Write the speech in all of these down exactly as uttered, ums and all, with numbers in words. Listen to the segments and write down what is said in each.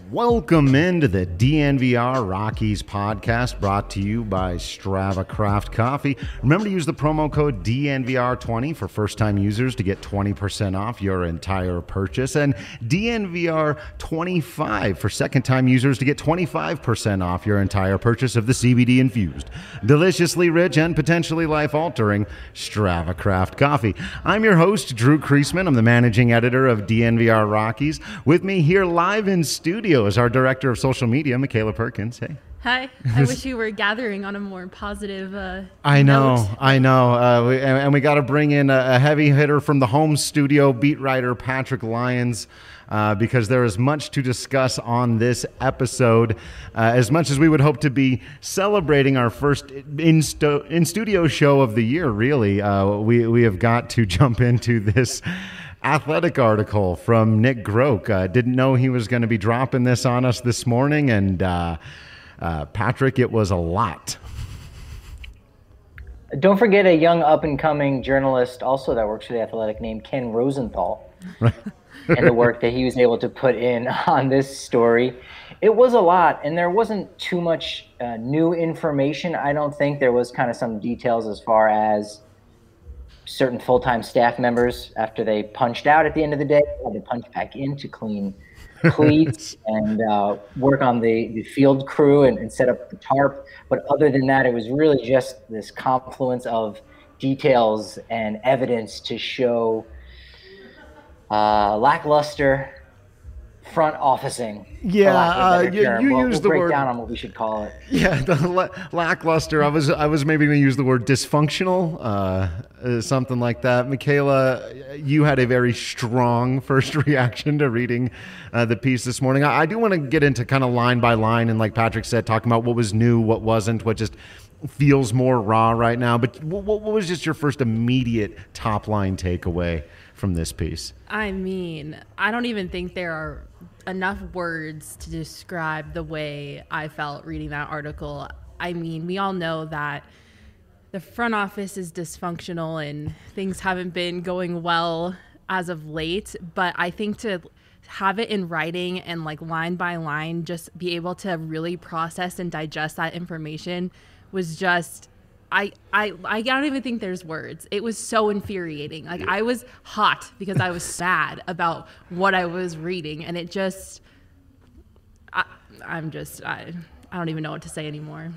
Welcome into the D N V R Rockies podcast, brought to you by Strava Craft Coffee. Remember to use the promo code D N V R twenty for first-time users to get twenty percent off your entire purchase, and D N V R twenty-five for second-time users to get twenty-five percent off your entire purchase of the C B D-infused, deliciously rich, and potentially life-altering Strava Craft Coffee. I'm your host, Drew Kreisman. I'm the managing editor of D N V R Rockies. With me here live in studio is our director of social media, Michaela Perkins. Hey. Hi. I wish you were gathering on a more positive uh, I know, note. I know. Uh, we, and, and we got to bring in a, a heavy hitter from the home studio, beat writer Patrick Lyons, uh, because there is much to discuss on this episode. Uh, as much as we would hope to be celebrating our first in, sto- in studio show of the year, really, uh, we, we have got to jump into this Athletic article from Nick Groke. Uh, didn't know he was going to be dropping this on us this morning, and uh, uh, Patrick, it was a lot. Don't forget a young up-and-coming journalist also that works for The Athletic named Ken Rosenthal, Right. and the work that he was able to put in on this story. It was a lot, and there wasn't too much uh, new information. I don't think there was kind of some details as far as certain full-time staff members, after they punched out at the end of the day, had to punch back in to clean cleats and uh, work on the, the field crew and, and set up the tarp. But other than that, it was really just this confluence of details and evidence to show uh, lackluster front officing. Yeah, uh, you, you we'll, used we'll the break word down on what we should call it. Yeah, the la- lackluster. I was I was maybe going to use the word dysfunctional, uh, uh, something like that. Michaela, you had a very strong first reaction to reading uh, the piece this morning. I, I do want to get into kind of line by line, and like Patrick said, talking about what was new, what wasn't, what just feels more raw right now. But what, what was just your first immediate top line takeaway from this piece? I mean, I don't even think there are enough words to describe the way I felt reading that article. I mean, we all know that the front office is dysfunctional and things haven't been going well as of late, but I think to have it in writing and like line by line, just be able to really process and digest that information was just I, I I don't even think there's words. It was so infuriating. Like, I was hot because I was sad about what I was reading, and it just I, I'm just I I don't even know what to say anymore.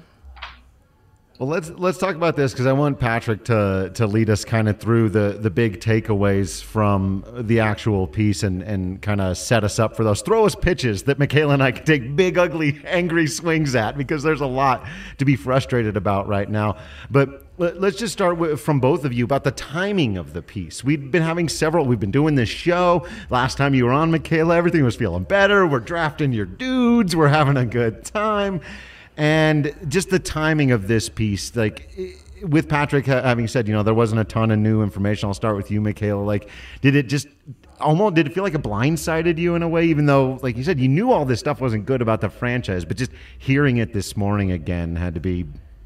Well, let's let's talk about this, because I want Patrick to to lead us kind of through the the big takeaways from the actual piece, and and kind of set us up for those. Throw us pitches that Michaela and I can take big, ugly, angry swings at, because there's a lot to be frustrated about right now. But let's just start with, from both of you, about the timing of the piece. We've been having several, we've been doing this show. Last time you were on, Michaela, everything was feeling better. We're drafting your dudes. We're having a good time. And just the timing of this piece, like with Patrick having said, you know, there wasn't a ton of new information. I'll start with you, Michaela. Like, did it just almost, did it feel like it blindsided you in a way, even though, like you said, you knew all this stuff wasn't good about the franchise, but just hearing it this morning again had to be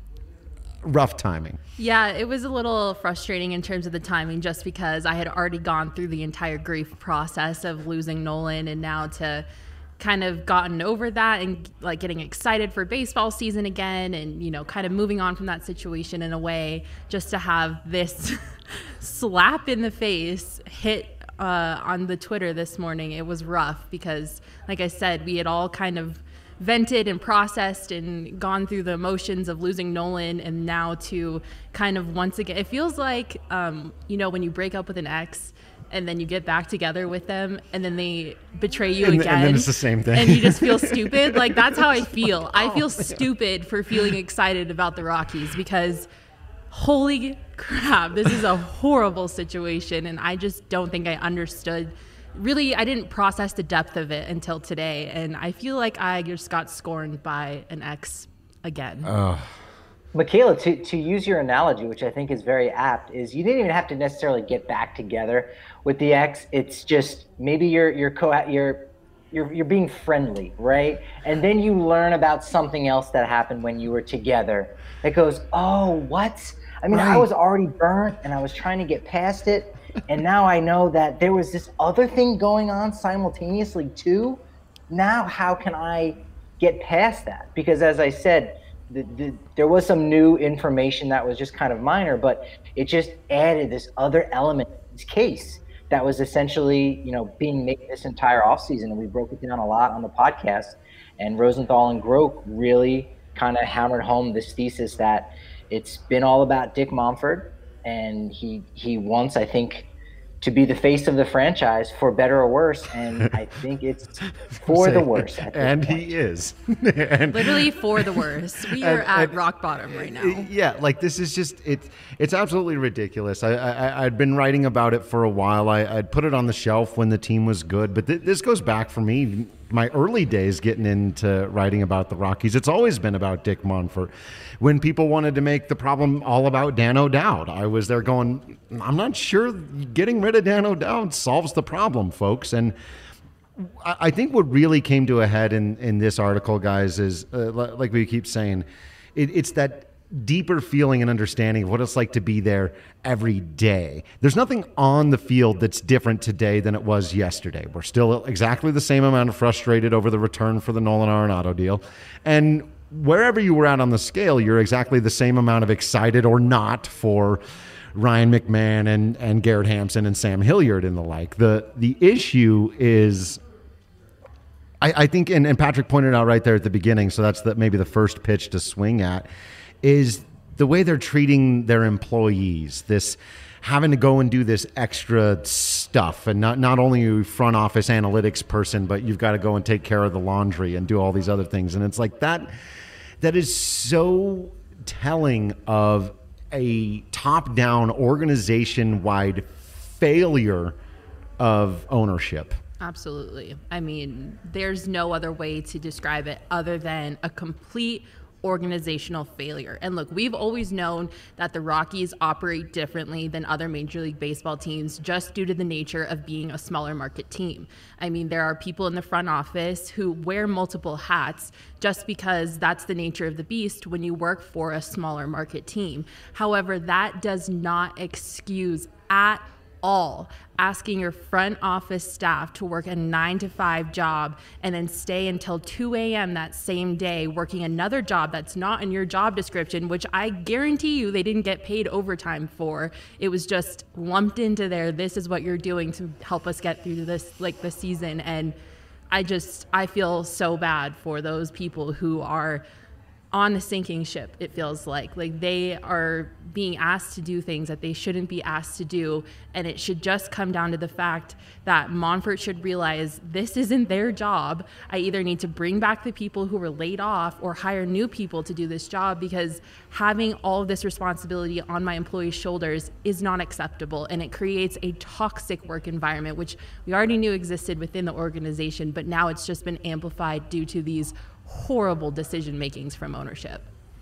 rough timing? Yeah, it was a little frustrating in terms of the timing, just because I had already gone through the entire grief process of losing Nolan, and now to kind of gotten over that and like getting excited for baseball season again, and, you know, kind of moving on from that situation in a way, just to have this slap in the face hit uh, on the Twitter this morning. It was rough because, like I said, we had all kind of vented and processed and gone through the emotions of losing Nolan, and now to kind of once again, it feels like, um, you know, when you break up with an ex and then you get back together with them and then they betray you and, again. And then it's the same thing. And you just feel stupid. Like, that's how I feel. I feel stupid for feeling excited about the Rockies, because holy crap, this is a horrible situation. And I just don't think I understood. Really, I didn't process the depth of it until today. And I feel like I just got scorned by an ex again. Oh. Michaela, to, to use your analogy, which I think is very apt, is you didn't even have to necessarily get back together with the ex. It's just maybe you're you're co you're you're you're being friendly, right? And then you learn about something else that happened when you were together. It goes, oh, what? I mean, right. I was already burnt and I was trying to get past it, and now I know that there was this other thing going on simultaneously too. now how can I get past that? Because as I said, the, the, there was some new information that was just kind of minor, but it just added this other element to this case that was essentially, you know, being made this entire offseason. And we broke it down a lot on the podcast. And Rosenthal and Groke really kind of hammered home this thesis that it's been all about Dick Monfort, and he he wants, I think, to be the face of the franchise for better or worse, and I think it's for the worse. At this and point. he is. and, Literally for the worst. We and, are at and, rock bottom right now. Yeah, like this is just it's it's absolutely ridiculous. I, I I'd been writing about it for a while. I I'd put it on the shelf when the team was good, but th- this goes back for me my early days getting into writing about the Rockies. It's always been about Dick Monfort. When people wanted to make the problem all about Dan O'Dowd, I was there going, I'm not sure getting rid of Dan O'Dowd solves the problem, folks. And I, I think what really came to a head in, in this article, guys, is uh, like we keep saying, it, it's that deeper feeling and understanding of what it's like to be there every day. There's nothing on the field that's different today than it was yesterday. We're still exactly the same amount of frustrated over the return for the Nolan Arenado deal. And wherever you were at on the scale, you're exactly the same amount of excited or not for Ryan McMahon and, and Garrett Hampson and Sam Hilliard and the like. The the issue is, I, I think, and, and Patrick pointed out right there at the beginning, so that's the, maybe the first pitch to swing at, is the way they're treating their employees, this having to go and do this extra stuff. And not, not only are you a front office analytics person, but you've got to go and take care of the laundry and do all these other things. And it's like that, that is so telling of a top-down, organization-wide failure of ownership. Absolutely. I mean, there's no other way to describe it other than a complete organizational failure. And look, we've always known that the Rockies operate differently than other Major League Baseball teams just due to the nature of being a smaller market team. I mean, there are people in the front office who wear multiple hats just because that's the nature of the beast when you work for a smaller market team. However, that does not excuse at all asking your front office staff to work a nine to five job and then stay until two a.m. that same day working another job that's not in your job description, which I guarantee you they didn't get paid overtime for. It was just lumped into there. This is what you're doing to help us get through this, like the season. And I just, I feel so bad for those people who are on a sinking ship. It feels like like they are being asked to do things that they shouldn't be asked to do, and it should just come down to the fact that Monfort should realize this isn't their job. I either need to bring back the people who were laid off or hire new people to do this job, because having all of this responsibility on my employees' shoulders is not acceptable, and it creates a toxic work environment, which we already knew existed within the organization, but now it's just been amplified due to these horrible decision makings from ownership.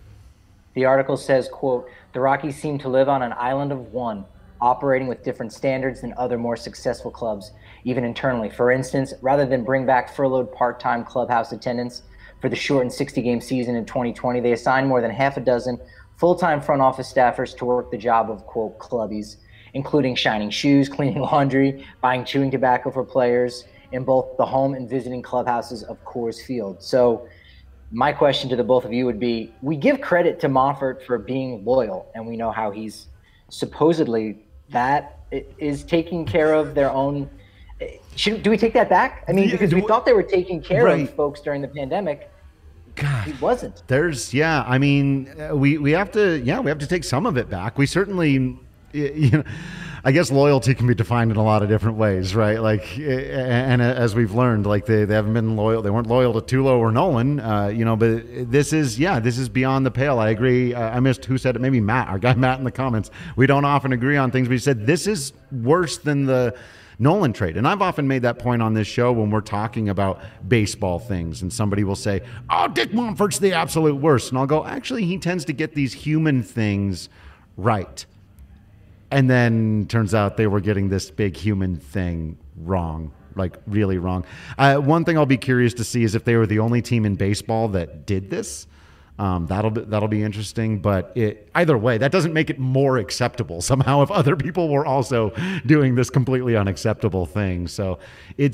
The article says, quote, "The Rockies seem to live on an island of one, operating with different standards than other more successful clubs, even internally. For instance, rather than bring back furloughed part-time clubhouse attendants for the shortened sixty-game season in twenty twenty, they assigned more than half a dozen full-time front office staffers to work the job of, quote, clubbies, including shining shoes, cleaning laundry, buying chewing tobacco for players in both the home and visiting clubhouses of Coors Field." So my question to the both of you would be, we give credit to Monfort for being loyal, and we know how he's supposedly that is taking care of their own. Should, do we take that back? I mean, because we thought they were taking care right. of folks during the pandemic. God, he wasn't. There's, yeah, I mean, we, we have to, yeah, we have to take some of it back. We certainly, you know, I guess loyalty can be defined in a lot of different ways, right? Like, and as we've learned, like they, they haven't been loyal. They weren't loyal to Tulo or Nolan, uh, you know, but this is, yeah, this is beyond the pale. I agree. Uh, I missed who said it. Maybe Matt, our guy Matt in the comments. We don't often agree on things, but he said this is worse than the Nolan trade. And I've often made that point on this show when we're talking about baseball things, and somebody will say, oh, Dick Monfort's the absolute worst. And I'll go, actually, he tends to get these human things right. And then turns out they were getting this big human thing wrong, like really wrong. Uh, one thing I'll be curious to see is if they were the only team in baseball that did this. Um, that'll be, that'll be interesting. But it, either way, that doesn't make it more acceptable somehow if other people were also doing this completely unacceptable thing. So it's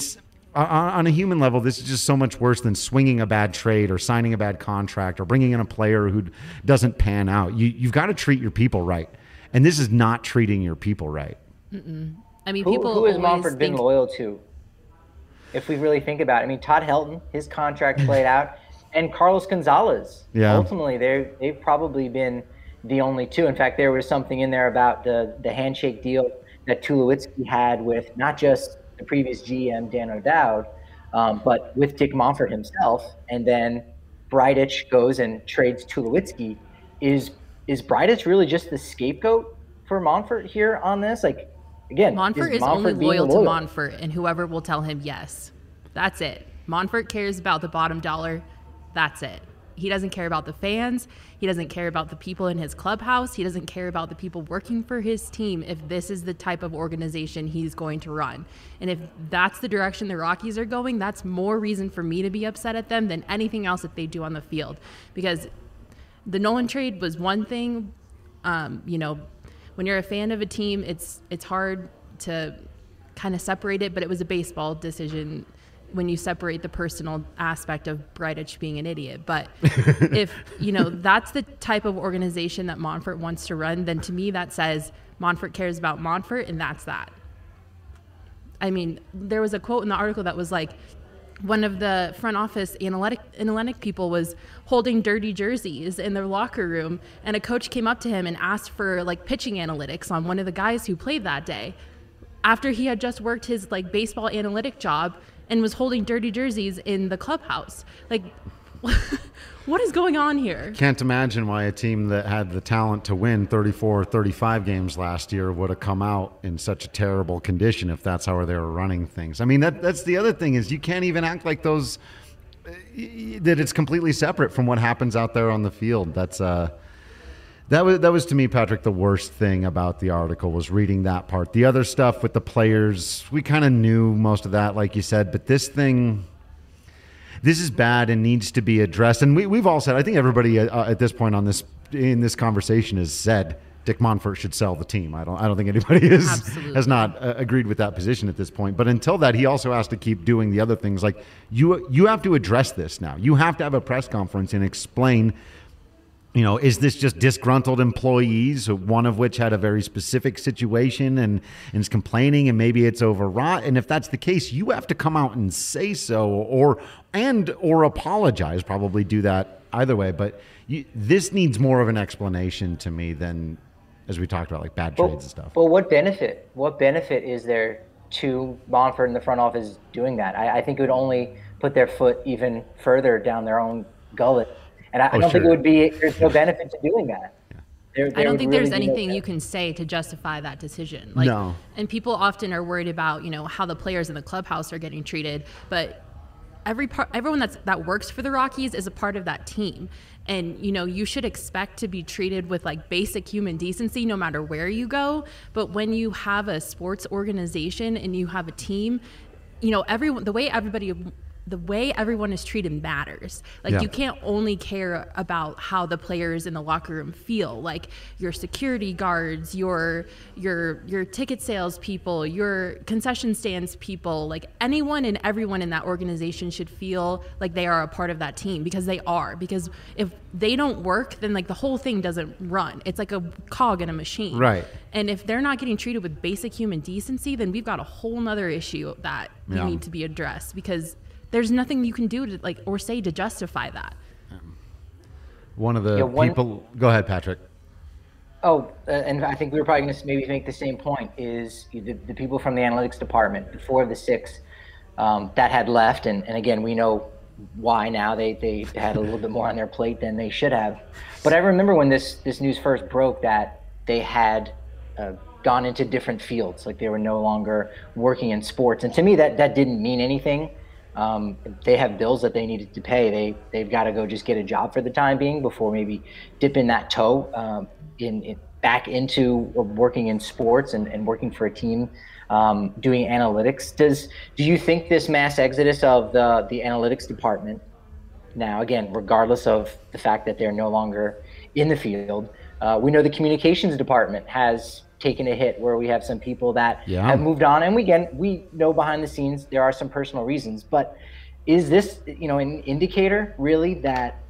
on, on a human level, this is just so much worse than swinging a bad trade or signing a bad contract or bringing in a player who doesn't pan out. You, you've got to treat your people right. And this is not treating your people right. Mm-mm. I mean, who, people who has always Monfort been think- loyal to? If we really think about it, I mean, Todd Helton, his contract played out, and Carlos Gonzalez. Yeah. Ultimately, they they've probably been the only two. In fact, there was something in there about the the handshake deal that Tulowitzki had with not just the previous G M Dan O'Dowd, um, but with Dick Monfort himself. And then Bridich goes and trades Tulowitzki. Is is Bridich really just the scapegoat for Monfort here on this? Like, again, Monfort is, Monfort only being loyal, loyal to Monfort and whoever will tell him yes. That's it. Monfort cares about the bottom dollar. That's it. He doesn't care about the fans. He doesn't care about the people in his clubhouse. He doesn't care about the people working for his team if this is the type of organization he's going to run. And if that's the direction the Rockies are going, that's more reason for me to be upset at them than anything else that they do on the field. Because the Nolan trade was one thing. Um, you know, when you're a fan of a team, it's it's hard to kind of separate it, but it was a baseball decision when you separate the personal aspect of Bridich being an idiot. But if, you know, that's the type of organization that Monfort wants to run, then to me that says Monfort cares about Monfort, and that's that. I mean, there was a quote in the article that was like, one of the front office analytic analytic people was holding dirty jerseys in their locker room, and a coach came up to him and asked for like pitching analytics on one of the guys who played that day after he had just worked his like baseball analytic job and was holding dirty jerseys in the clubhouse. Like, what is going on here? Can't imagine why a team that had the talent to win thirty-four, thirty-five games last year would have come out in such a terrible condition if that's how they were running things. I mean, that that's the other thing is you can't even act like those, that it's completely separate from what happens out there on the field. That's uh, that was that was to me, Patrick, the worst thing about the article was reading that part. The other stuff with the players, we kind of knew most of that, like you said, but this thing. This is bad and needs to be addressed. And we, we've all said, I think everybody uh, at this point on this in this conversation has said Dick Monfort should sell the team. I don't I don't think anybody is, has not uh, agreed with that position at this point. But until that, he also has to keep doing the other things. Like you you have to address this now. You have to have a press conference and explain, you know, is this just disgruntled employees, one of which had a very specific situation and, and is complaining and maybe it's overwrought? And if that's the case, you have to come out and say so or and or apologize, probably do that either way. But you, this needs more of an explanation to me than, as we talked about, like bad trades well, and stuff. Well, what benefit? What benefit is there to Monfort and the front office doing that? I, I think it would only put their foot even further down their own gullet. And I, Oh, I don't sure. think it would be, there's no benefit to doing that. There, I there don't would think really there's be no anything you benefit. can say to justify that decision. Like, No. And people often are worried about, you know, how the players in the clubhouse are getting treated, but every part, everyone that's that works for the Rockies is a part of that team. And, you know, you should expect to be treated with like basic human decency no matter where you go. But when you have a sports organization and you have a team, you know, everyone, the way everybody the way everyone is treated matters. Like Yeah. you can't only care about how the players in the locker room feel. Like your security guards, your your your ticket sales people, your concession stands people, like anyone and everyone in that organization should feel like they are a part of that team, because they are. Because if they don't work, then like the whole thing doesn't run. It's like a cog in a machine. Right. And if they're not getting treated with basic human decency, then we've got a whole nother issue that Yeah. need to be addressed, because there's nothing you can do to like or say to justify that. One of the Yeah, one- people, go ahead, Patrick. Oh, uh, and I think we were probably going to maybe make the same point, is the, the people from the analytics department, the four of the six um, that had left, and, and again, we know why now. They, they had a little bit more on their plate than they should have. But I remember when this, this news first broke that they had uh, gone into different fields, like they were no longer working in sports. And to me, that, that didn't mean anything. Um, they have bills that they needed to pay. They, they've got to go just get a job for the time being before maybe dipping that toe um, in, in back into working in sports and, and working for a team, um, doing analytics. Does do you think this mass exodus of the, the analytics department now, again, regardless of the fact that they're no longer in the field, uh, we know the communications department has taken a hit, where we have some people that yeah. have moved on. And we, again, we know behind the scenes there are some personal reasons. But is this, you know, an indicator really that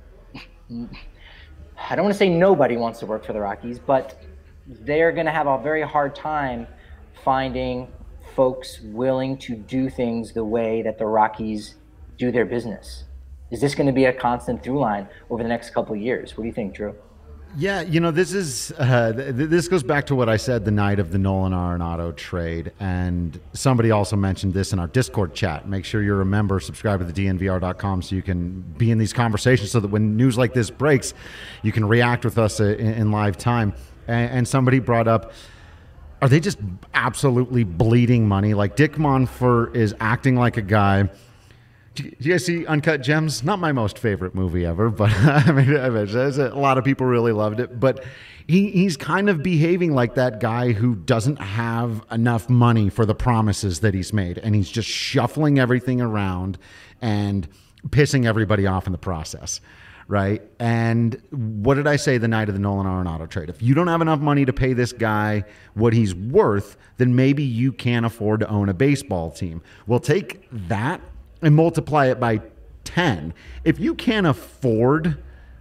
I don't want to say nobody wants to work for the Rockies, but they're going to have a very hard time finding folks willing to do things the way that the Rockies do their business? Is this going to be a constant through line over the next couple of years? What do you think, Drew? Yeah, you know, this is uh, th- this goes back to what I said the night of the Nolan Arenado trade, and somebody also mentioned this in our Discord chat. Make sure you're a member, subscribe to the D N V R dot com so you can be in these conversations, so that when news like this breaks, you can react with us in, in live time. And, and somebody brought up, are they just absolutely bleeding money? Like, Dick Monfort is acting like a guy. Do you guys see Uncut Gems? Not my most favorite movie ever, but I mean, a lot of people really loved it. But he, he's kind of behaving like that guy who doesn't have enough money for the promises that he's made. And he's just shuffling everything around and pissing everybody off in the process, right? And what did I say the night of the Nolan Arenado trade? If you don't have enough money to pay this guy what he's worth, then maybe you can't afford to own a baseball team. We'll take that and multiply it by ten. If you can't afford,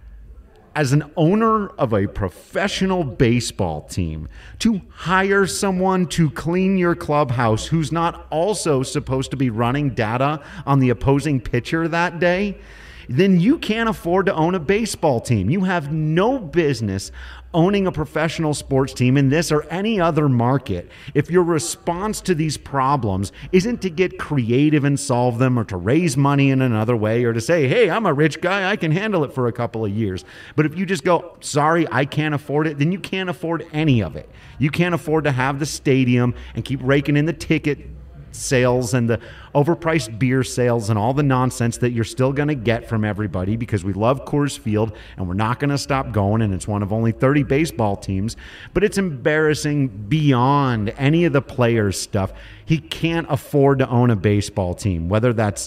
as an owner of a professional baseball team, to hire someone to clean your clubhouse who's not also supposed to be running data on the opposing pitcher that day, then you can't afford to own a baseball team. You have no business owning a professional sports team in this or any other market if your response to these problems isn't to get creative and solve them, or to raise money in another way, or to say, hey, I'm a rich guy, I can handle it for a couple of years. But if you just go, sorry, I can't afford it, then you can't afford any of it. You can't afford to have the stadium and keep raking in the ticket sales and the overpriced beer sales and all the nonsense that you're still going to get from everybody, because we love Coors Field and we're not going to stop going, and it's one of only thirty baseball teams. But it's embarrassing beyond any of the players' stuff. He can't afford to own a baseball team, whether that's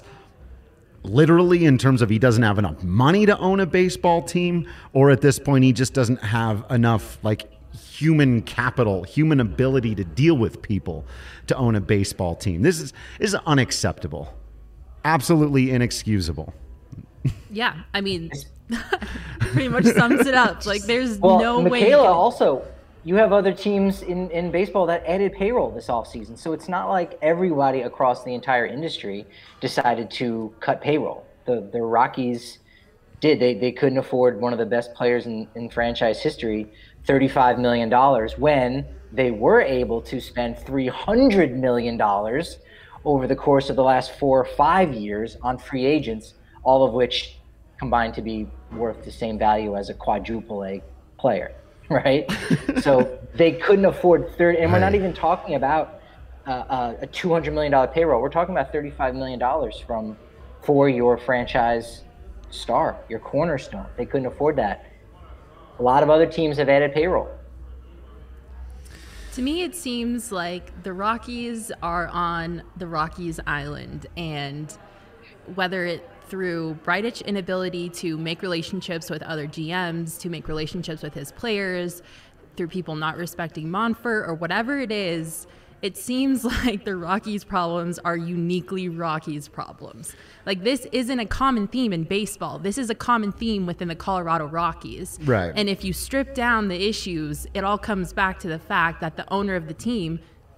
literally in terms of he doesn't have enough money to own a baseball team, or at this point he just doesn't have enough like human capital, human ability to deal with people to own a baseball team. This is, this is unacceptable. Absolutely inexcusable. Yeah, I mean, pretty much sums it up. Like, there's well, no Michaela, way. Michaela, also, you have other teams in, in baseball that added payroll this offseason. So it's not like everybody across the entire industry decided to cut payroll. The the Rockies did. They they couldn't afford one of the best players in, in franchise history thirty-five million dollars when they were able to spend three hundred million dollars over the course of the last four or five years on free agents, all of which combined to be worth the same value as a quadruple A player, right? So they couldn't afford thirty, and we're not even talking about uh, uh, a two hundred million dollars payroll. We're talking about thirty-five million dollars from for your franchise star, your cornerstone. They couldn't afford that. A lot of other teams have added payroll. To me, it seems like the Rockies are on the Rockies Island, and whether it through Bridich inability to make relationships with other G Ms, to make relationships with his players, through people not respecting Monfort, or whatever it is, it seems like the Rockies' problems are uniquely Rockies' problems. Like, this isn't a common theme in baseball. This is a common theme within the Colorado Rockies. Right. And if you strip down the issues, it all comes back to the fact that the owner of the team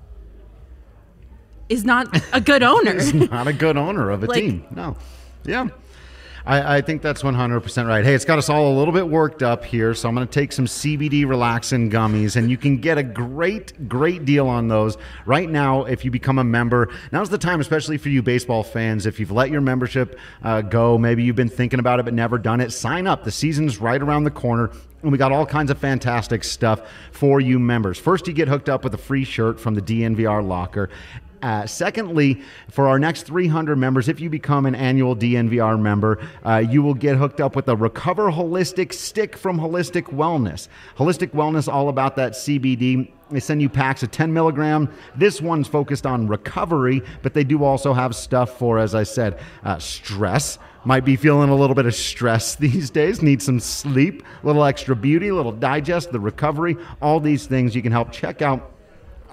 is not a good owner. He's not a good owner of a Like- team. No. Yeah. I, I think that's one hundred percent right. Hey, it's got us all a little bit worked up here, so I'm going to take some C B D relaxing gummies, and you can get a great, great deal on those right now if you become a member. Now's the time, especially for you baseball fans. If you've let your membership uh, go, maybe you've been thinking about it but never done it, sign up. The season's right around the corner, and we got all kinds of fantastic stuff for you members. First, you get hooked up with a free shirt from the D N V R locker. Uh, secondly, for our next three hundred members, if you become an annual D N V R member, uh, you will get hooked up with a Recover Holistic stick from Holistic Wellness. Holistic Wellness, all about that C B D. They send you packs of ten milligram. This one's focused on recovery, but they do also have stuff for, as I said, uh, stress. Might be feeling a little bit of stress these days, need some sleep, a little extra beauty, a little digest, the recovery, all these things you can help. Check out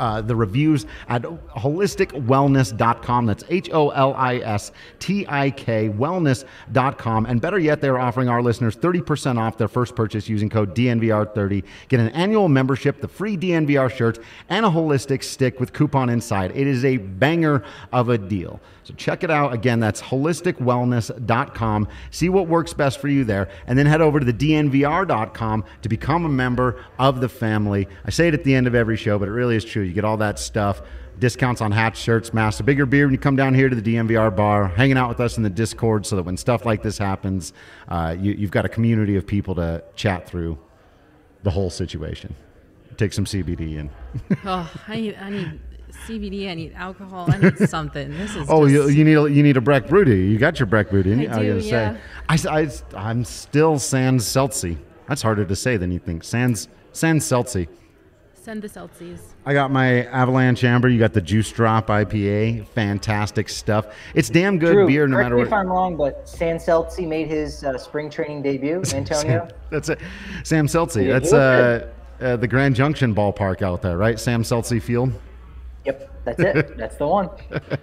uh, the reviews at holistic wellness dot com. That's H O L I S T I K wellness dot com. And better yet, they're offering our listeners thirty percent off their first purchase using code D N V R thirty. Get an annual membership, the free D N V R shirts, and a holistic stick with coupon inside. It is a banger of a deal. So check it out. Again, that's holistic wellness dot com. See what works best for you there. And then head over to the D N V R dot com to become a member of the family. I say it at the end of every show, but it really is true. You get all that stuff. Discounts on hats, shirts, masks, a bigger beer when you come down here to the D N V R bar, hanging out with us in the Discord so that when stuff like this happens, uh, you, you've got a community of people to chat through the whole situation. Take some C B D in. Oh, I need, I need C B D. I need alcohol. I need something. This is. Oh, just... you, you need a, you need a Breck Brew, do you? You got your Breck Brew, didn't you? I do, was yeah. Say, I, I, I'm still Sans Seltzy. That's harder to say than you think. Sans Sans Seltzy. Send the Celsius. I got my Avalanche Amber. You got the Juice Drop I P A. Fantastic stuff. It's damn good Drew, beer no correct matter me what. if I'm wrong, but Sam Seltzy made his uh, spring training debut, Antonio. Sam, that's it. Sam Seltzy. Yeah, that's uh, uh, the Grand Junction ballpark out there, right? Sam Seltzy Field. Yep, that's it. That's the one.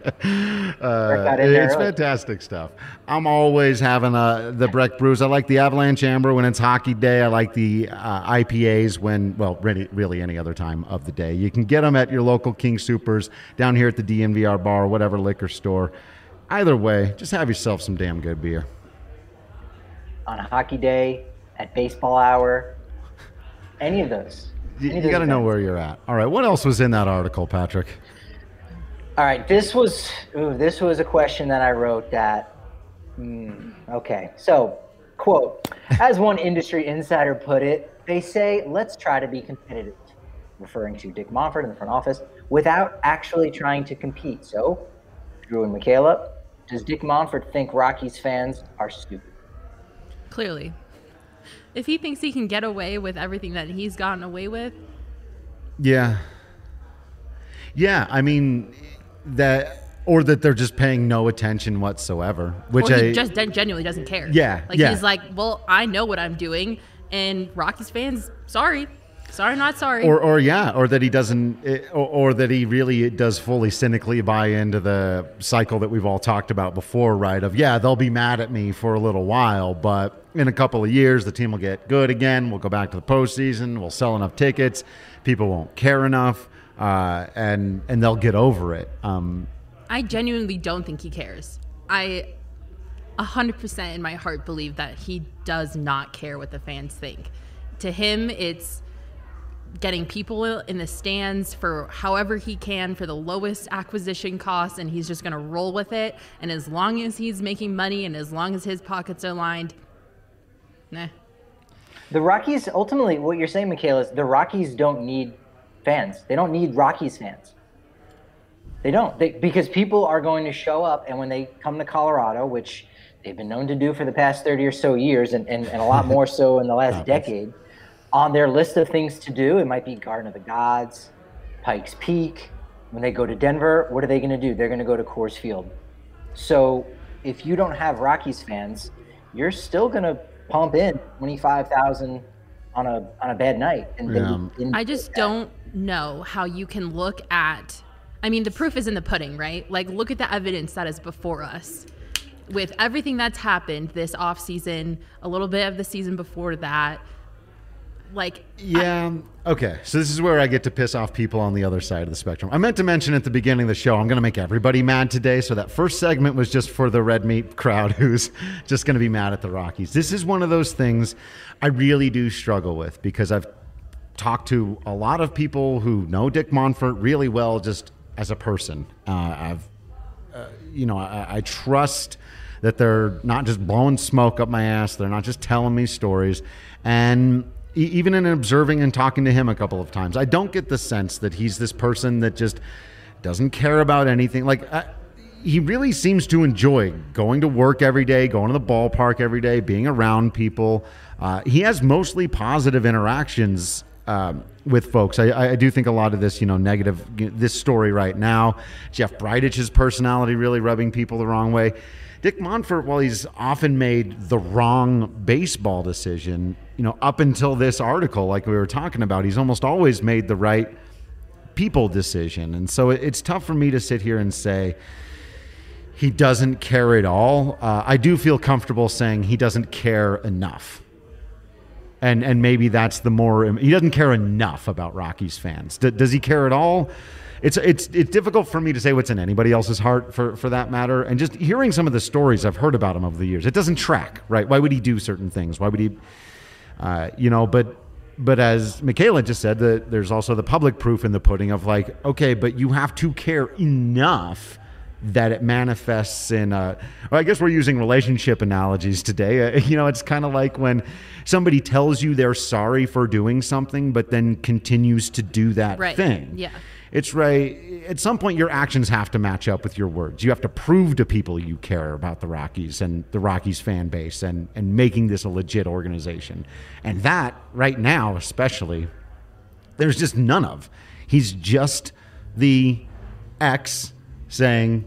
Uh, it's fantastic stuff. I'm always having uh, the Breck Brews. I like the Avalanche Amber when it's hockey day. I like the uh, I P As when, well, really, really any other time of the day. You can get them at your local King Supers, down here at the D N V R bar, whatever liquor store. Either way, just have yourself some damn good beer. On a hockey day, at baseball hour, any of those. You, you got to know where you're at. All right, what else was in that article, Patrick? All right, this was ooh, this was a question that I wrote that, mm, okay. So, quote, as one industry insider put it, they say, let's try to be competitive, referring to Dick Monfort in the front office, without actually trying to compete. So, Drew and Michaela, does Dick Monfort think Rockies fans are stupid? Clearly. If he thinks he can get away with everything that he's gotten away with. Yeah. Yeah, I mean, that, or that they're just paying no attention whatsoever, which or he I just genuinely doesn't care. Yeah, like yeah. he's like, well, I know what I'm doing, and Rockies fans, sorry, sorry, not sorry. Or, or yeah, or that he doesn't, or, or that he really does fully cynically buy into the cycle that we've all talked about before, right? Of yeah, they'll be mad at me for a little while, but in a couple of years, the team will get good again. We'll go back to the postseason. We'll sell enough tickets. People won't care enough, uh, and and they'll get over it. Um, I genuinely don't think he cares. I one hundred percent in my heart believe that he does not care what the fans think. To him, it's getting people in the stands for however he can for the lowest acquisition cost, and he's just going to roll with it. And as long as he's making money and as long as his pockets are lined, nah. The Rockies, ultimately, what you're saying, Michaela, is the Rockies don't need fans. They don't need Rockies fans. They don't. They, because people are going to show up, and when they come to Colorado, which they've been known to do for the past thirty or so years, and, and, and a lot more so in the last decade, on their list of things to do, it might be Garden of the Gods, Pikes Peak. When they go to Denver, what are they going to do? They're going to go to Coors Field. So if you don't have Rockies fans, you're still going to pump in twenty-five thousand on a on a bad night. And Yeah. then I just don't know how you can look at, I mean, the proof is in the pudding, right? Like, look at the evidence that is before us. With everything that's happened this offseason, a little bit of the season before that, like, Yeah. Okay. So this is where I get to piss off people on the other side of the spectrum. I meant to mention at the beginning of the show, I'm going to make everybody mad today. So that first segment was just for the red meat crowd who's just going to be mad at the Rockies. This is one of those things I really do struggle with because I've talked to a lot of people who know Dick Monfort really well just as a person. Uh, I've, uh, you know, I, I trust that they're not just blowing smoke up my ass. They're not just telling me stories. And even in observing and talking to him a couple of times, I don't get the sense that he's this person that just doesn't care about anything. Like, I, he really seems to enjoy going to work every day, going to the ballpark every day, being around people. Uh, he has mostly positive interactions um, with folks. I, I do think a lot of this, you know, negative, this story right now, Jeff Bridic's personality really rubbing people the wrong way. Dick Monfort, while he's often made the wrong baseball decision, you know, up until this article, like we were talking about, he's almost always made the right people decision. And so it, it's tough for me to sit here and say he doesn't care at all. Uh, I do feel comfortable saying he doesn't care enough. And and maybe that's the more, he doesn't care enough about Rockies fans. D- does he care at all? It's it's it's difficult for me to say what's in anybody else's heart for, for that matter. And just hearing some of the stories I've heard about him over the years, it doesn't track, right? Why would he do certain things? Why would he, uh, you know, but but as Michaela just said, the, there's also the public proof in the pudding of like, okay, but you have to care enough that it manifests in, uh, well, I guess we're using relationship analogies today. Uh, you know, it's kind of like when somebody tells you they're sorry for doing something, but then continues to do that right. thing. Yeah. It's right. At some point, your actions have to match up with your words. You have to prove to people you care about the Rockies and the Rockies fan base and, and making this a legit organization. And that, right now especially, there's just none of. He's just the ex saying,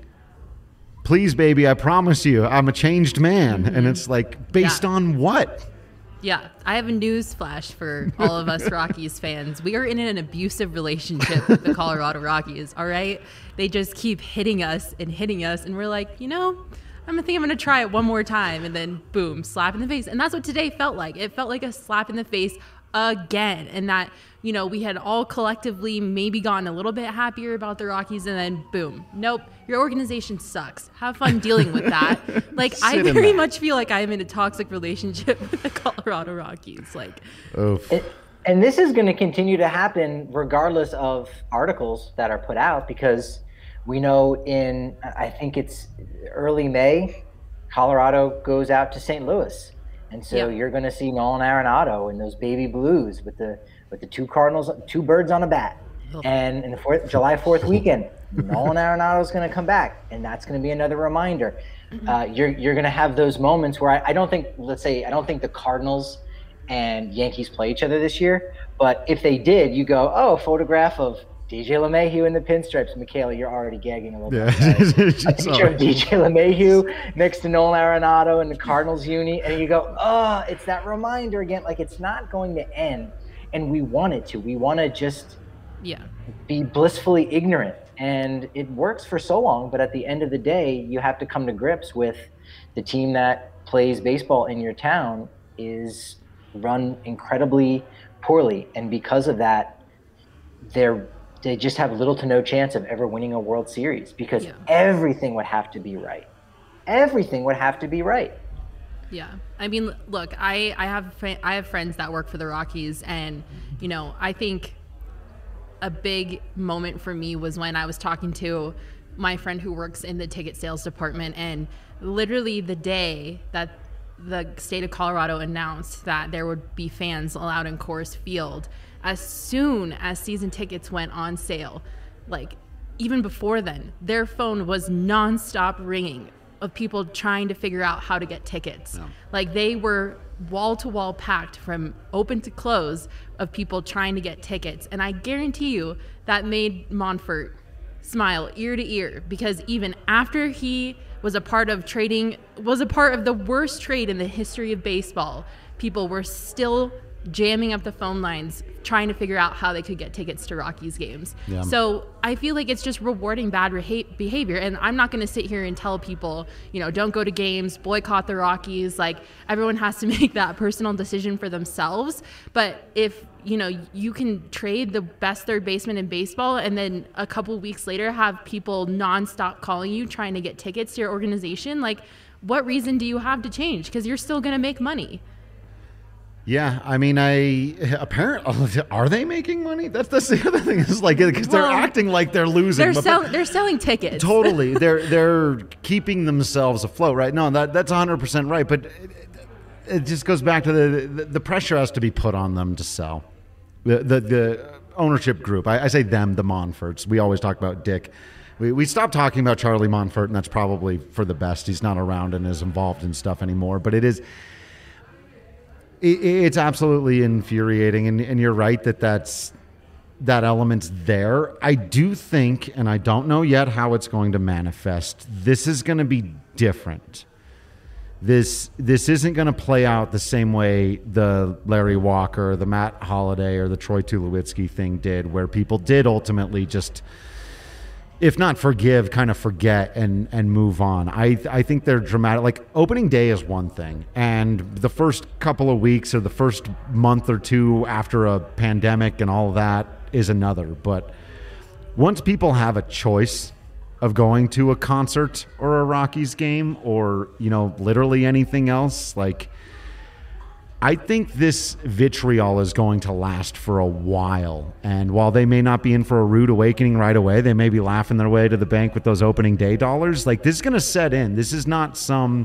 please, baby, I promise you, I'm a changed man. Mm-hmm. And it's like, based yeah. on what? Yeah, I have a news flash for all of us Rockies fans. We are in an abusive relationship with the Colorado Rockies, all right? They just keep hitting us and hitting us, and we're like, you know, I'm gonna think I'm gonna try it one more time, and then boom, slap in the face. And that's what today felt like. It felt like a slap in the face again, and that, you know, we had all collectively maybe gotten a little bit happier about the Rockies, and then boom, nope, your organization sucks. Have fun dealing with that. Like, I very much feel like I'm in a toxic relationship with the Colorado Rockies. Like, Oof. It, and this is going to continue to happen regardless of articles that are put out, because we know in, I think it's early May, Colorado goes out to Saint Louis. And so yeah. you're going to see Nolan Arenado and those baby blues with the with the two Cardinals, two birds on a bat. Oh. And in the fourth, July fourth weekend, Nolan Arenado is going to come back, and that's going to be another reminder. Mm-hmm. Uh, you're you're going to have those moments where I, I don't think, let's say, I don't think the Cardinals and Yankees play each other this year, but if they did, you go, oh, photograph of D J LeMahieu in the pinstripes. Michaela, you're already gagging a little yeah. bit. A picture of D J LeMahieu next to Nolan Arenado in the Cardinals uni, and you go, oh, it's that reminder again. Like, it's not going to end, and we want it to. We want to just yeah. be blissfully ignorant, and it works for so long, but at the end of the day, you have to come to grips with the team that plays baseball in your town is run incredibly poorly, and because of that, they're they just have little to no chance of ever winning a World Series, because yeah. everything would have to be right. Everything would have to be right. Yeah. I mean, look, I, I have I have friends that work for the Rockies, and, you know, I think a big moment for me was when I was talking to my friend who works in the ticket sales department, and literally the day that the state of Colorado announced that there would be fans allowed in Coors Field, as soon as season tickets went on sale, like even before then, their phone was nonstop ringing of people trying to figure out how to get tickets. Yeah. Like, they were wall to wall packed from open to close of people trying to get tickets. And I guarantee you that made Monfort smile ear to ear, because even after he was a part of trading, was a part of the worst trade in the history of baseball, people were still jamming up the phone lines trying to figure out how they could get tickets to Rockies games. Yeah. So I feel like it's just rewarding bad reha- behavior. And I'm not going to sit here and tell people, you know, don't go to games, boycott the Rockies. Like, everyone has to make that personal decision for themselves. But if, you know, you can trade the best third baseman in baseball, and then a couple weeks later have people nonstop calling you trying to get tickets to your organization, like, what reason do you have to change? Because you're still going to make money. Yeah, I mean, I apparently are they making money? That's that's the other thing. Is like, because well, they're acting like they're losing. They're but, sell, but, they're selling tickets. Totally, they're they're keeping themselves afloat, right? No, that that's one hundred percent right. But it, it just goes back to the, the the pressure has to be put on them to sell. The the, the ownership group. I, I say them, the Monforts. We always talk about Dick. We we stopped talking about Charlie Monfort, and that's probably for the best. He's not around and is involved in stuff anymore. But it is. It's absolutely infuriating, and, and you're right that that's, that element's there. I do think, and I don't know yet how it's going to manifest, this is going to be different this this isn't going to play out the same way the Larry Walker, the Matt Holliday, or the Troy Tulowitzki thing did, where people did ultimately just, if not forgive, kind of forget and and move on. I I think they're dramatic. Like, opening day is one thing, and the first couple of weeks or the first month or two after a pandemic and all of that is another. But once people have a choice of going to a concert or a Rockies game or, you know, literally anything else, like, I think this vitriol is going to last for a while. And while they may not be in for a rude awakening right away, they may be laughing their way to the bank with those opening day dollars. Like, this is going to set in. This is not some,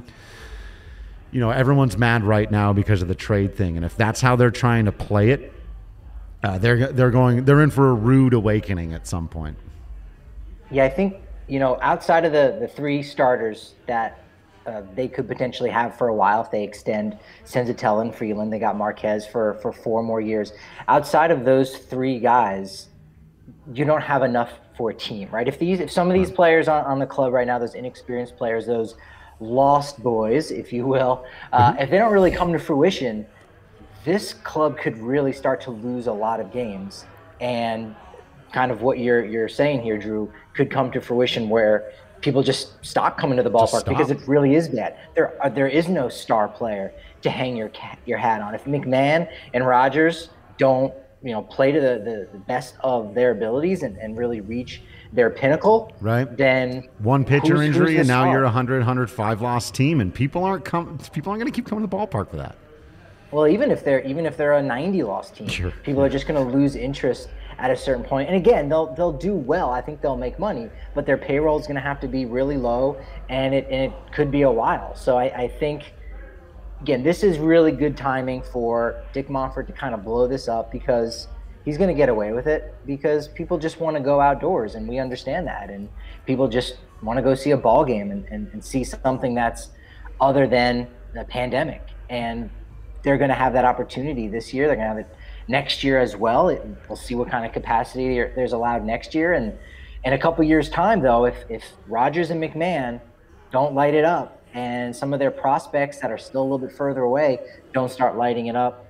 you know, everyone's mad right now because of the trade thing. And if that's how they're trying to play it, uh, they're they're going they're in for a rude awakening at some point. Yeah, I think, you know, outside of the, the three starters that uh, they could potentially have for a while if they extend Senzatella and Freeland, they got Marquez for, for four more years. Outside of those three guys, you don't have enough for a team, right? If these, if some of these players on, on the club right now, those inexperienced players, those lost boys, if you will, uh, mm-hmm. if they don't really come to fruition, this club could really start to lose a lot of games. And kind of what you're you're saying here, Drew, could come to fruition where people just stop coming to the ballpark because it really is bad. There are, there is no star player to hang your your hat on. If McMahon and Rogers don't, you know, play to the, the, the best of their abilities and, and really reach their pinnacle, right? Then one pitcher who's, injury who's and now star? you're a one hundred, one hundred five loss team, and people aren't com- people aren't going to keep coming to the ballpark for that. Well, even if they're even if they're a ninety loss team, sure. people are just going to lose interest at a certain point. And again, they'll they'll do well. I think they'll make money, but their payroll is going to have to be really low, and it and it could be a while. So I, I think, again, this is really good timing for Dick Monfort to kind of blow this up, because he's going to get away with it because people just want to go outdoors, and we understand that. And people just want to go see a ball game and, and, and see something that's other than the pandemic. And they're going to have that opportunity this year. They're going to have it next year as well. It, we'll see what kind of capacity there, there's allowed next year. And in a couple years' time, though, if, if Rogers and McMahon don't light it up, and some of their prospects that are still a little bit further away don't start lighting it up,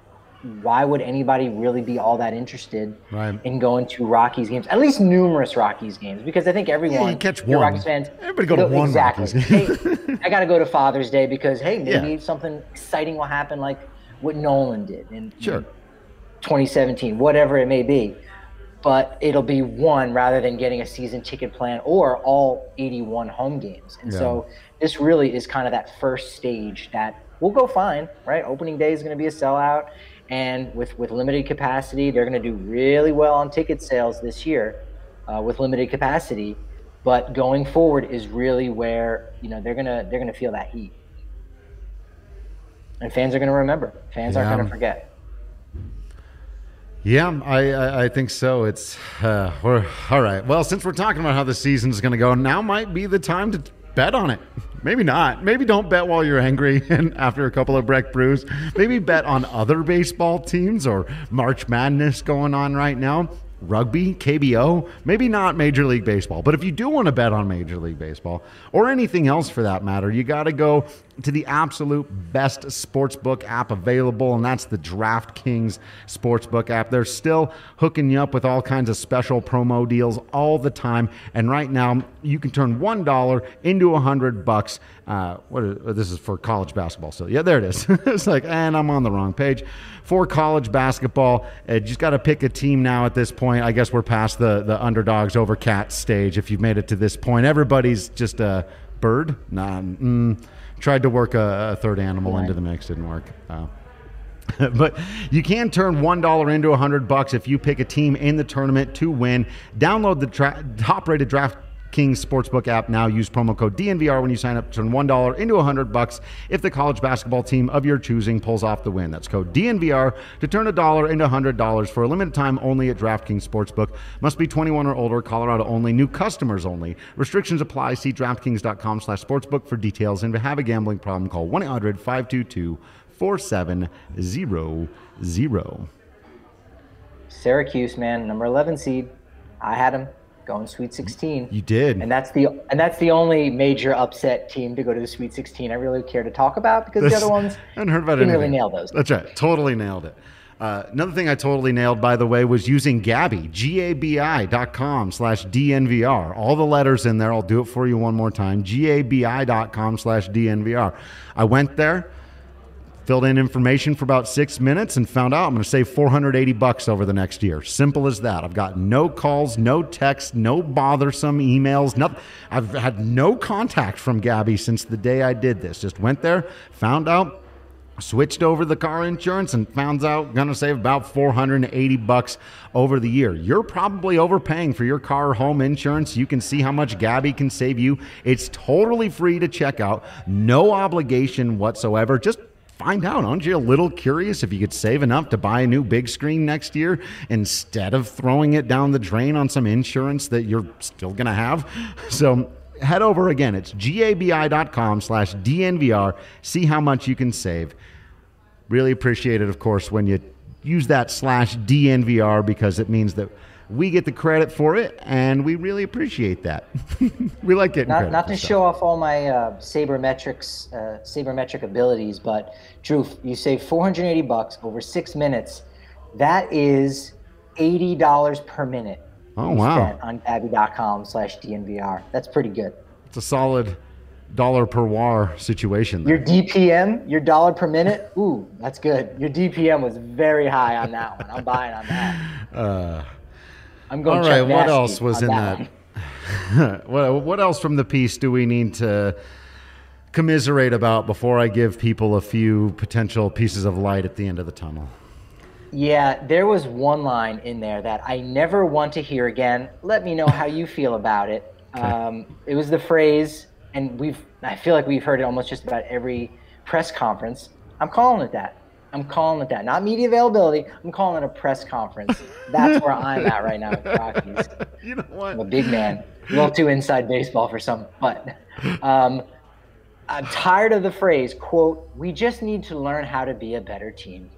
why would anybody really be all that interested right. in going to Rockies games? At least numerous Rockies games, because I think everyone, yeah, you catch one. Rockies fans, everybody go to go, one exactly. Rockies game. Hey, I got to go to Father's Day because hey, maybe yeah. something exciting will happen, like what Nolan did in, sure. in twenty seventeen, whatever it may be. But it'll be one rather than getting a season ticket plan or all eighty-one home games. And yeah. so this really is kind of that first stage that we'll go fine, right? Opening day is going to be a sellout. And with, with limited capacity, they're going to do really well on ticket sales this year uh, with limited capacity. But going forward is really where, you know, they're gonna they're gonna feel that heat, and fans are going to remember. Fans yeah. aren't going to forget. Yeah, I, I, I think so. It's uh, we're all right. Well, since we're talking about how the season's going to go, now might be the time to bet on it. Maybe not. Maybe don't bet while you're angry and after a couple of Breck brews. Maybe bet on other baseball teams or March Madness going on right now. Rugby, K B O, maybe not Major League Baseball. But if you do want to bet on Major League Baseball or anything else for that matter, you got to go to the absolute best sportsbook app available, and that's the DraftKings Sportsbook app. They're still hooking you up with all kinds of special promo deals all the time. And right now, you can turn one dollar into one hundred bucks. Uh, what is, this is for college basketball. So, yeah, there it is. It's like, and I'm on the wrong page. For college basketball, uh, you just got to pick a team now at this point. I guess we're past the, the underdogs over cats stage if you've made it to this point. Everybody's just a bird. Nah, mm, tried to work a, a third animal right. into the mix. Didn't work. Uh, but you can turn one dollar into one hundred bucks if you pick a team in the tournament to win. Download the tra- top-rated DraftKings Sportsbook app now. Use promo code D N V R when you sign up to turn one dollar into one hundred bucks if the college basketball team of your choosing pulls off the win. That's code D N V R to turn a dollar into one hundred dollars for a limited time only at DraftKings Sportsbook. Must be twenty-one or older, Colorado only, new customers only. Restrictions apply. See DraftKings.com slash sportsbook for details. And if you have a gambling problem, call one eight hundred five two two four seven zero zero. Syracuse, man, number eleven seed. I had them going Sweet sixteen. You did. And that's the and that's the only major upset team to go to the Sweet sixteen I really care to talk about, because this, the other ones I haven't heard about didn't anything. really nail those. That's right. Totally nailed it. Uh, another thing I totally nailed, by the way, was using Gabi, G A B I dot com slash D N V R. All the letters in there. I'll do it for you one more time. G A B I dot com slash D N V R. I went there, filled in information for about six minutes, and found out I'm going to save four hundred eighty bucks over the next year. Simple as that. I've got no calls, no texts, no bothersome emails. Nothing. I've had no contact from Gabi since the day I did this. Just went there, found out, switched over the car insurance, and found out going to save about four hundred eighty bucks over the year. You're probably overpaying for your car or home insurance. You can see how much Gabi can save you. It's totally free to check out. No obligation whatsoever. Just find out. Aren't you a little curious if you could save enough to buy a new big screen next year instead of throwing it down the drain on some insurance that you're still going to have? So head over again. It's G A B I dot com slash D N V R. See how much you can save. Really appreciate it, of course, when you use that slash D N V R, because it means that we get the credit for it, and we really appreciate that. We like getting not, credit. Not to stuff. show off all my uh, sabermetrics, uh, sabermetric abilities, but Drew, you save four hundred eighty bucks over six minutes. That is eighty dollars per minute. Oh, wow. Spent on Gabi dot com slash D N V R. That's pretty good. It's a solid dollar per war situation there. Your D P M, your dollar per minute, ooh, that's good. Your D P M was very high on that one. I'm buying on that. Uh, I'm going. all right, Chuck what Nasty else was on in that? that? what, what else from the piece do we need to commiserate about before I give people a few potential pieces of light at the end of the tunnel? Yeah, there was one line in there that I never want to hear again. Let me know how you feel about it. Okay. Um, it was the phrase, and we've I feel like we've heard it almost just about every press conference. I'm calling it that. I'm calling it that. Not media availability. I'm calling it a press conference. That's where I'm at right now with the Rockies. You know what? I'm a big man. A little too inside baseball for some. But um, I'm tired of the phrase, quote, we just need to learn how to be a better team.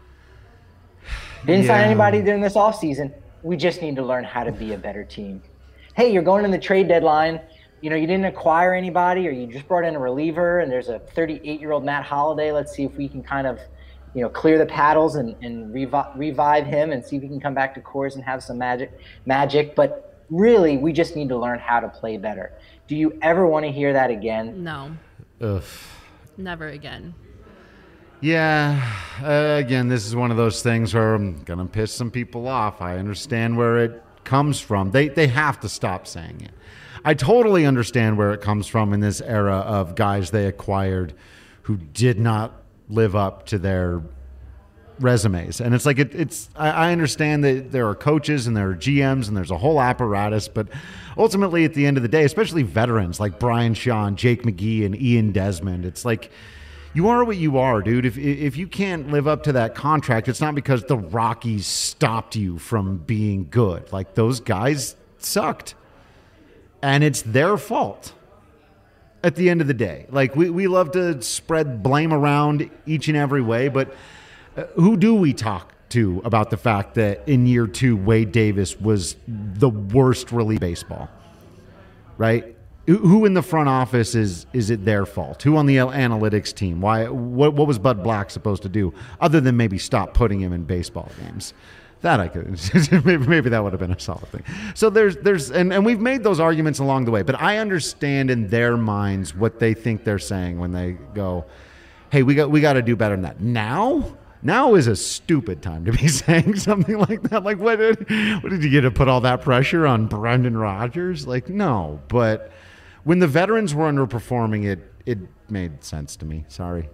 Didn't sign Yeah. anybody during this offseason. We just need to learn how to be a better team. Hey, you're going in the trade deadline. You know, you didn't acquire anybody, or you just brought in a reliever, and there's a thirty-eight-year-old Matt Holliday. Let's see if we can kind of, you know, clear the paddles and, and revi- revive him and see if we can come back to Coors and have some magic. magic. But really, we just need to learn how to play better. Do you ever want to hear that again? No, Ugh. never again. Yeah, uh, again, this is one of those things where I'm going to piss some people off. I understand where it comes from. They they have to stop saying it. I totally understand where it comes from in this era of guys they acquired who did not live up to their resumes. And it's like, it, it's, I, I understand that there are coaches and there are G Ms and there's a whole apparatus, but ultimately at the end of the day, especially veterans like Brian Shaw, Jake McGee, and Ian Desmond, it's like, you are what you are, dude. If if you can't live up to that contract, it's not because the Rockies stopped you from being good. Like, those guys sucked. And it's their fault at the end of the day. Like, we, we love to spread blame around each and every way, but uh, who do we talk to about the fact that in year two, Wade Davis was the worst relief baseball, right? Who in the front office is is it their fault? Who on the analytics team? Why? What, what was Bud Black supposed to do other than maybe stop putting him in baseball games? That I could maybe, maybe that would have been a solid thing. So there's there's and, and we've made those arguments along the way, but I understand in their minds what they think they're saying when they go, "Hey, we got we got to do better than that." Now, now is a stupid time to be saying something like that. Like, what did, what did you get to put all that pressure on Brendan Rodgers? Like, no, but when the veterans were underperforming, it it made sense to me. Sorry.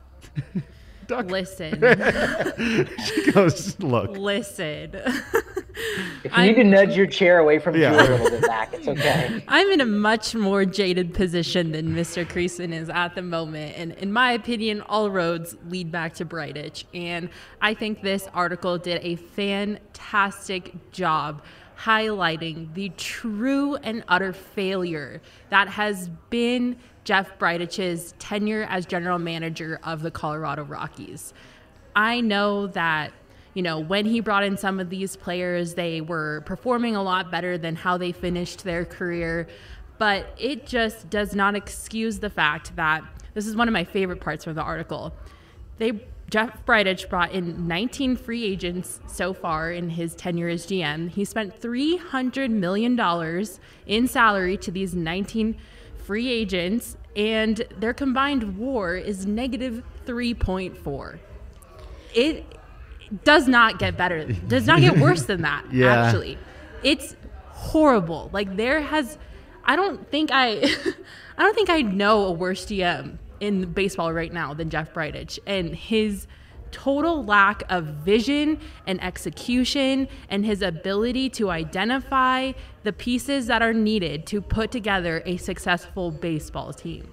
Duck. Listen. She goes, look. Listen. If you need to nudge your chair away from Yeah. you a little bit back, it's okay. I'm in a much more jaded position than Mister Creason is at the moment. And in my opinion, all roads lead back to Brightitch. And I think this article did a fantastic job highlighting the true and utter failure that has been Jeff Brightitch's tenure as general manager of the Colorado Rockies. I know that, you know, when he brought in some of these players, they were performing a lot better than how they finished their career. But it just does not excuse the fact that this is one of my favorite parts from the article. They Jeff Bridich brought in nineteen free agents so far in his tenure as G M. He spent three hundred million dollars in salary to these nineteen free agents, and their combined WAR is negative three point four. It does not get better. Does not get worse than that, yeah. actually. It's horrible. Like, there has... I don't think I, I don't think I know a worse G M in baseball right now than Jeff Bridich, and his total lack of vision and execution and his ability to identify the pieces that are needed to put together a successful baseball team.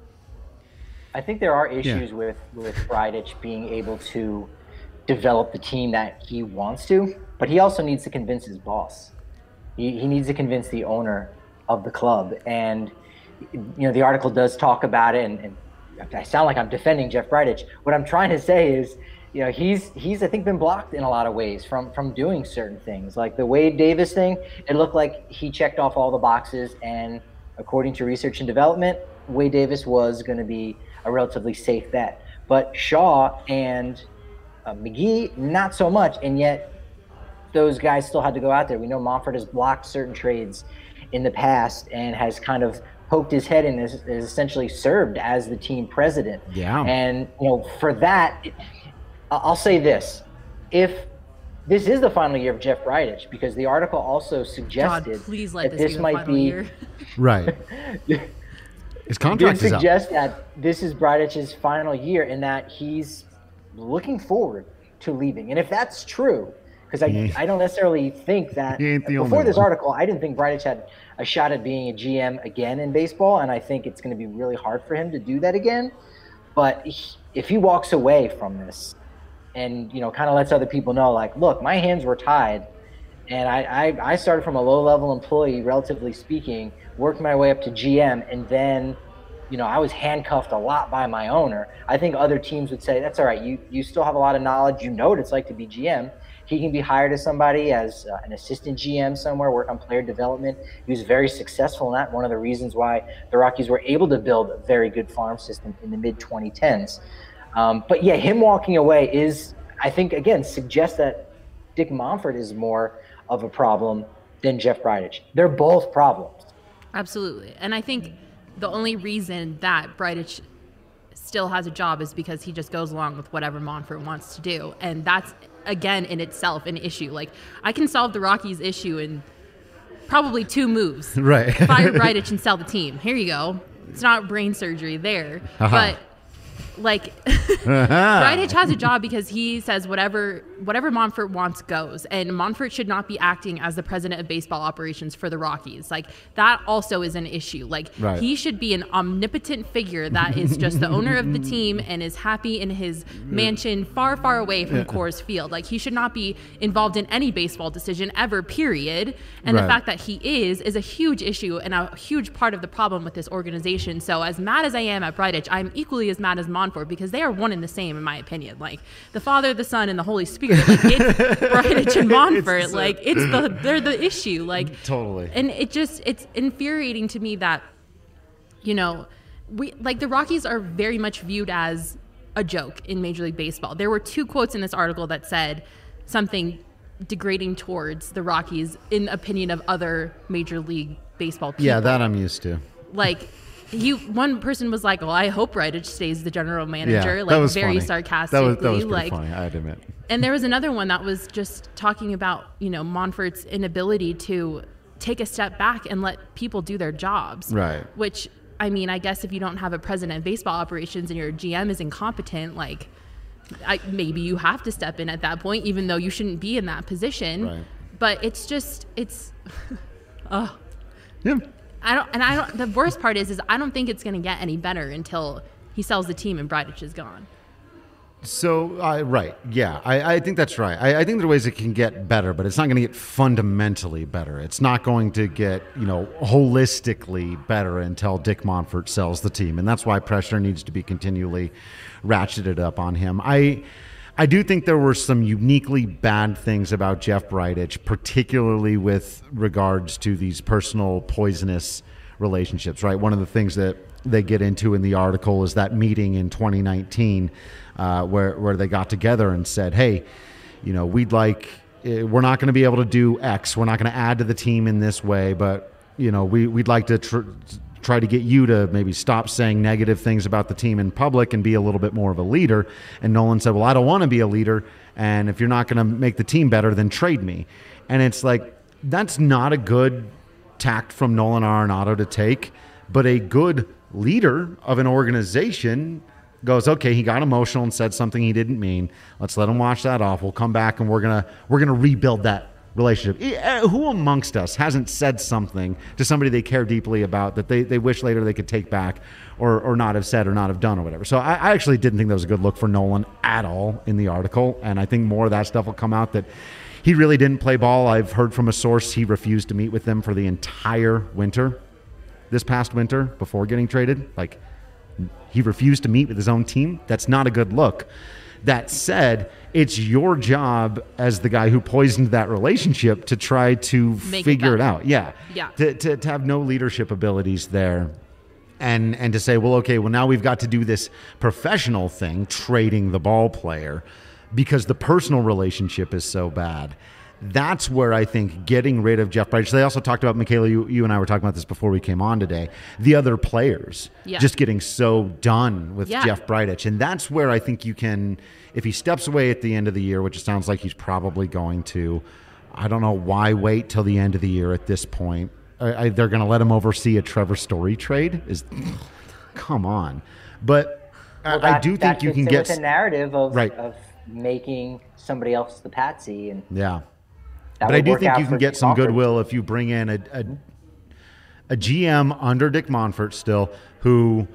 I think there are issues yeah. with, with Bridich being able to develop the team that he wants to, but he also needs to convince his boss. He, he needs to convince the owner of the club. And, you know, the article does talk about it, and, and I sound like I'm defending Jeff Bridich. What I'm trying to say is, you know, he's, he's I think, been blocked in a lot of ways from, from doing certain things. Like the Wade Davis thing, it looked like he checked off all the boxes, and according to research and development, Wade Davis was going to be a relatively safe bet. But Shaw and uh, McGee, not so much, and yet those guys still had to go out there. We know Monfort has blocked certain trades in the past and has kind of poked his head in and is, is essentially served as the team president. Yeah. And, you know, for that, I'll say this. If this is the final year of Jeff Bridich, because the article also suggested God, please let that this, this be might the final be year. Right. His contract did is up. suggest that this is Bridich's final year and that he's looking forward to leaving. And if that's true, because I, I don't necessarily think that before this one. article, I didn't think Bridich had a shot at being a G M again in baseball, and I think it's going to be really hard for him to do that again. But he, if he walks away from this and, you know, kind of lets other people know, like, look, my hands were tied, and I, I, I started from a low-level employee, relatively speaking, worked my way up to G M, and then, you know, I was handcuffed a lot by my owner. I think other teams would say, that's all right, you, you still have a lot of knowledge, you know what it's like to be G M. He can be hired as somebody as uh, an assistant G M somewhere, work on player development. He was very successful in that. One of the reasons why the Rockies were able to build a very good farm system in the mid twenty tens. Um, but yeah, him walking away is, I think, again, suggests that Dick Monfort is more of a problem than Jeff Bridich. They're both problems. Absolutely. And I think the only reason that Bridich still has a job is because he just goes along with whatever Monfort wants to do. And that's, again, in itself an issue. Like, I can solve the Rockies issue in probably two moves. Right. Fire Bridich and sell the team. Here you go. It's not brain surgery there. Uh-huh. But like Bridich has a job because he says whatever whatever Monfort wants goes, and Monfort should not be acting as the president of baseball operations for the Rockies. Like, that also is an issue. Like, right. He should be an omnipotent figure that is just the owner of the team and is happy in his mansion far, far away from Coors Field. Like, he should not be involved in any baseball decision ever, period. And right. the fact that he is is a huge issue and a huge part of the problem with this organization. So as mad as I am at Bridich, I'm equally as mad as Monfort, because they are one and the same, in my opinion. Like, the Father, the Son, and the Holy Spirit. Like, it's Bridich and Monfort. It's, like, it's the they're the issue. Like, totally. And it just it's infuriating to me that, you know, we like the Rockies are very much viewed as a joke in Major League Baseball. There were two quotes in this article that said something degrading towards the Rockies in the opinion of other Major League Baseball people. Yeah, that I'm used to. Like, you, one person was like, "Well, I hope Bridich stays the general manager." Yeah, like, that was very funny. sarcastically. That was, that was pretty like, funny, I'd admit. And there was another one that was just talking about, you know, Monfort's inability to take a step back and let people do their jobs. Right. Which, I mean, I guess if you don't have a president of baseball operations and your G M is incompetent, like, I, maybe you have to step in at that point, even though you shouldn't be in that position. Right. But it's just, it's, oh. Yeah. I don't, and I don't, the worst part is, is I don't think it's going to get any better until he sells the team and Bridich is gone. So, uh, right, yeah, I, I think that's right. I, I think there are ways it can get better, but it's not going to get fundamentally better. It's not going to get, you know, holistically better until Dick Monfort sells the team, and that's why pressure needs to be continually ratcheted up on him. I, I do think there were some uniquely bad things about Jeff Bridich, particularly with regards to these personal poisonous relationships, right? One of the things that they get into in the article is that meeting in twenty nineteen uh, where, where they got together and said, hey, you know, we'd like, we're not going to be able to do X. We're not going to add to the team in this way, but, you know, we, we'd like to tr- try to get you to maybe stop saying negative things about the team in public and be a little bit more of a leader. And Nolan said, well, I don't want to be a leader. And if you're not going to make the team better, then trade me. And it's like, that's not a good tact from Nolan Arenado to take, but a good leader of an organization goes, okay, he got emotional and said something he didn't mean. Let's let him wash that off. We'll come back and we're going to, we're going to rebuild that relationship. Who amongst us hasn't said something to somebody they care deeply about that they, they wish later they could take back or, or not have said or not have done or whatever? So I, I actually didn't think that was a good look for Nolan at all in the article. And I think more of that stuff will come out, that he really didn't play ball. I've heard from a source he refused to meet with them for the entire winter, this past winter, before getting traded. Like, he refused to meet with his own team. That's not a good look. That said, it's your job as the guy who poisoned that relationship to try to Make figure it, it out. Yeah. Yeah. To, to, to have no leadership abilities there. And and to say, well, okay, well, now we've got to do this professional thing, trading the ball player, because the personal relationship is so bad. That's where I think getting rid of Jeff Bridich. They also talked about, Michaela, you, you and I were talking about this before we came on today, the other players yeah. just getting so done with yeah. Jeff Bridich. And that's where I think you can, if he steps away at the end of the year, which it sounds like he's probably going to, I don't know why wait till the end of the year at this point. I, I, they're going to let him oversee a Trevor Story trade? Is Come on. But well, I, that, I do think that you can fits in get... with the narrative of, right. of making somebody else the patsy. And yeah. That but I do work think out you can for get Dick some Monfort. goodwill if you bring in a, a a G M under Dick Monfort still, who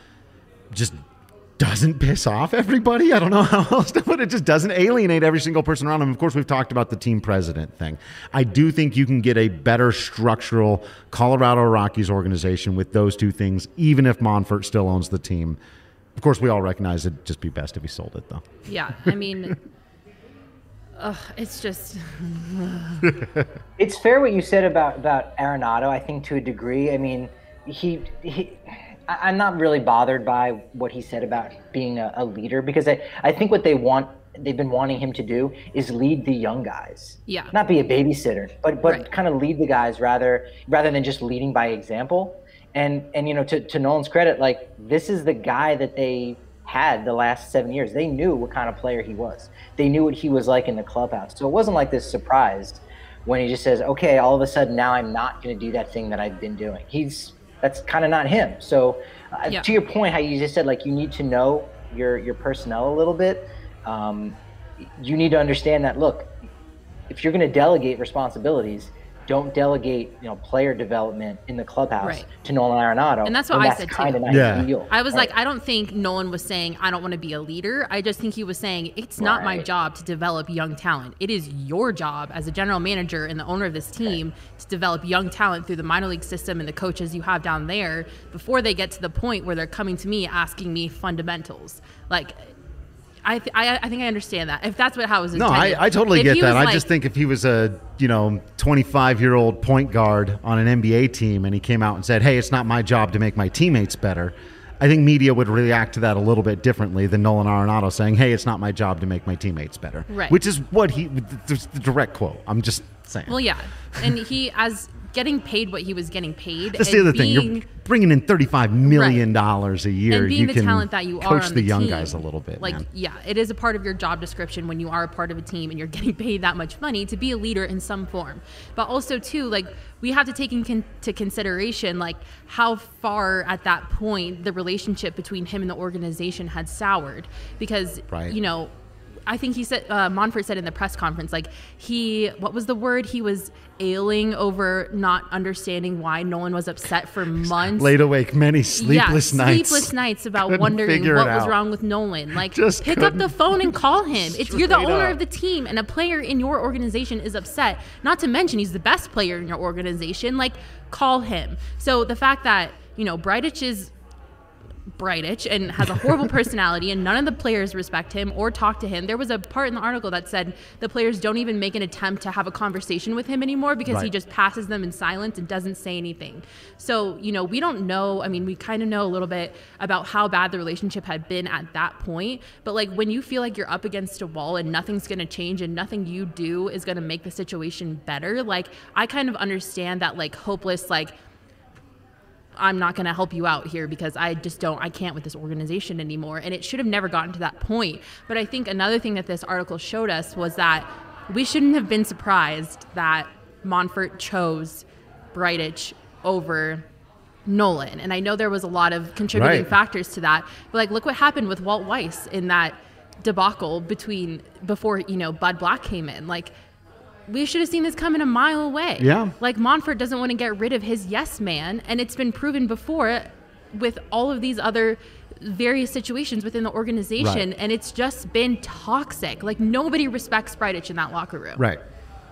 just doesn't piss off everybody. I don't know how else to put it. Just doesn't alienate every single person around him. Of course, we've talked about the team president thing. I do think you can get a better structural Colorado Rockies organization with those two things, even if Monfort still owns the team. Of course, we all recognize it'd just be best if he sold it, though. Yeah, I mean... Ugh, it's just... It's fair what you said about, about Arenado, I think, to a degree. I mean, he, he I'm not really bothered by what he said about being a, a leader, because I, I think what they want, they've been wanting him to do is lead the young guys. Yeah. Not be a babysitter, but but Right. kind of lead the guys rather rather than just leading by example. And, and you know, to, to Nolan's credit, like, this is the guy that they had the last seven years. They knew what kind of player he was. They knew what he was like in the clubhouse. So it wasn't like this surprise when he just says, okay, all of a sudden now I'm not going to do that thing that I've been doing. He's, that's kind of not him. So uh, Yeah. to your point, how you just said, like, you need to know your, your personnel a little bit. Um, you need to understand that, look, if you're going to delegate responsibilities, don't delegate, you know, player development in the clubhouse Right. to Nolan Arenado. And that's what when I said, too. kinda not Yeah. ideal. I was Right. like, I don't think Nolan was saying, I don't want to be a leader. I just think he was saying, it's not my Right. job to develop young talent. It is your job as a general manager and the owner of this team to develop young talent through the minor league system and the coaches you have down there before they get to the point where they're coming to me asking me fundamentals. Like, I, th- I I think I understand that. If that's what how it was No, intended. I, I totally If get he that. was I like- just think if he was a, you know, twenty-five-year-old point guard on an N B A team and he came out and said, hey, it's not my job to make my teammates better, I think media would react to that a little bit differently than Nolan Arenado saying, hey, it's not my job to make my teammates better. Right. Which is what he, the direct quote. I'm just saying. Well, yeah. And he, as getting paid what he was getting paid. That's and the other thing. being- You're bringing in thirty-five million dollars a year. and being you the can talent that you are coach on the, the young team, guys a little bit, like man. yeah, it is a part of your job description when you are a part of a team and you're getting paid that much money to be a leader in some form. But also too, like we have to take into consideration like how far at that point the relationship between him and the organization had soured, because Right. you know. I think he said, uh, Monfort said in the press conference, like he, what was the word? He was ailing over not understanding why Nolan was upset for months. Laid awake many sleepless yeah, nights. sleepless nights about Couldn't wondering figure what it was out. wrong with Nolan. Like, Just pick up the couldn't. phone and call him. It's you're the Straight owner up. of the team, and a player in your organization is upset. Not to mention he's the best player in your organization. Like, call him. So the fact that you know Bridich is Bridich and has a horrible personality, and none of the players respect him or talk to him. There was a part in the article that said the players don't even make an attempt to have a conversation with him anymore because Right. he just passes them in silence and doesn't say anything. So, you know, we don't know. I mean, we kind of know a little bit about how bad the relationship had been at that point. But like when you feel like you're up against a wall and nothing's going to change and nothing you do is going to make the situation better, like I kind of understand that like hopeless, like, I'm not going to help you out here because I just don't, I can't with this organization anymore. And it should have never gotten to that point. But I think another thing that this article showed us was that we shouldn't have been surprised that Monfort chose Bridich over Nolan. And I know there was a lot of contributing Right. factors to that. But like, look what happened with Walt Weiss in that debacle between, before, you know, Bud Black came in. Like, we should have seen this coming a mile away. Yeah. Like Monfort doesn't want to get rid of his yes man, and it's been proven before with all of these other various situations within the organization, Right. and it's just been toxic. Like nobody respects Bridich in that locker room. Right.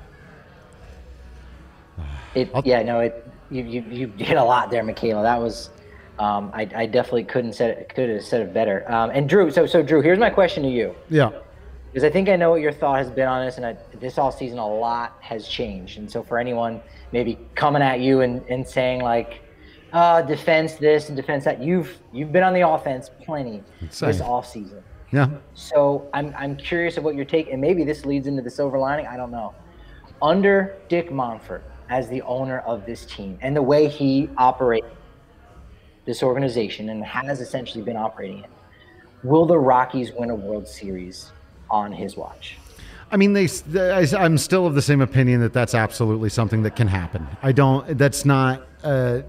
It, yeah, no, it, you, you you did a lot there, Michaela. That was, um, I, I definitely couldn't said it, could have said it better. Um, and Drew, so so Drew, here's my question to you, Yeah. because I think I know what your thought has been on this, and I, this all season a lot has changed. And so for anyone maybe coming at you and, and saying like, uh, defense this and defense that, you've you've been on the offense plenty Insane. this off season. Yeah. So I'm I'm curious of what your take, and maybe this leads into the silver lining. I don't know. Under Dick Monfort as the owner of this team and the way he operates this organization and has essentially been operating it, will the Rockies win a World Series on his watch? I mean, they, they. I'm still of the same opinion that that's absolutely something that can happen. I don't. That's not. Uh,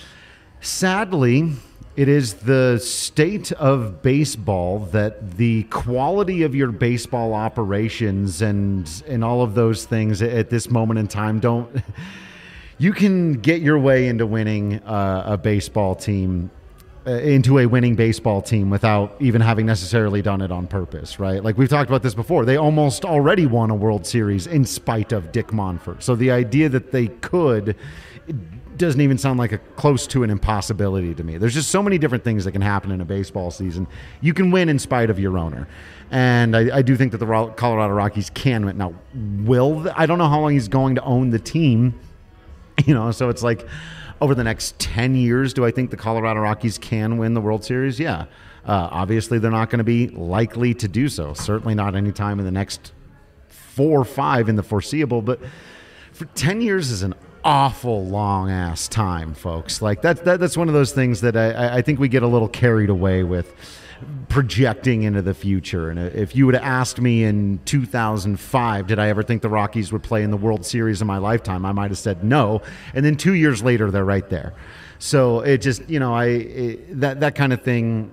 sadly, it is the state of baseball that the quality of your baseball operations and and all of those things at this moment in time don't. You can get your way into winning uh, a baseball team. Uh, into a winning baseball team without even having necessarily done it on purpose, right? Like we've talked about this before. They almost already won a World Series in spite of Dick Monfort. So the idea that they could it doesn't even sound like a close to an impossibility to me. There's just so many different things that can happen in a baseball season. You can win in spite of your owner. And I, I do think that the Colorado Rockies can win. Now, will the, I don't know how long he's going to own the team, you know, so it's like, over the next ten years, do I think the Colorado Rockies can win the World Series? Yeah. Uh, obviously, they're not going to be likely to do so. Certainly not anytime in the next four or five in the foreseeable. But for ten years is an awful long-ass time, folks. Like that, that, that's one of those things that I, I think we get a little carried away with projecting into the future. And if you would have asked me in two thousand five, did I ever think the Rockies would play in the World Series in my lifetime, I might have said no. And then two years later, they're right there. So it just, you know, I it, that that kind of thing,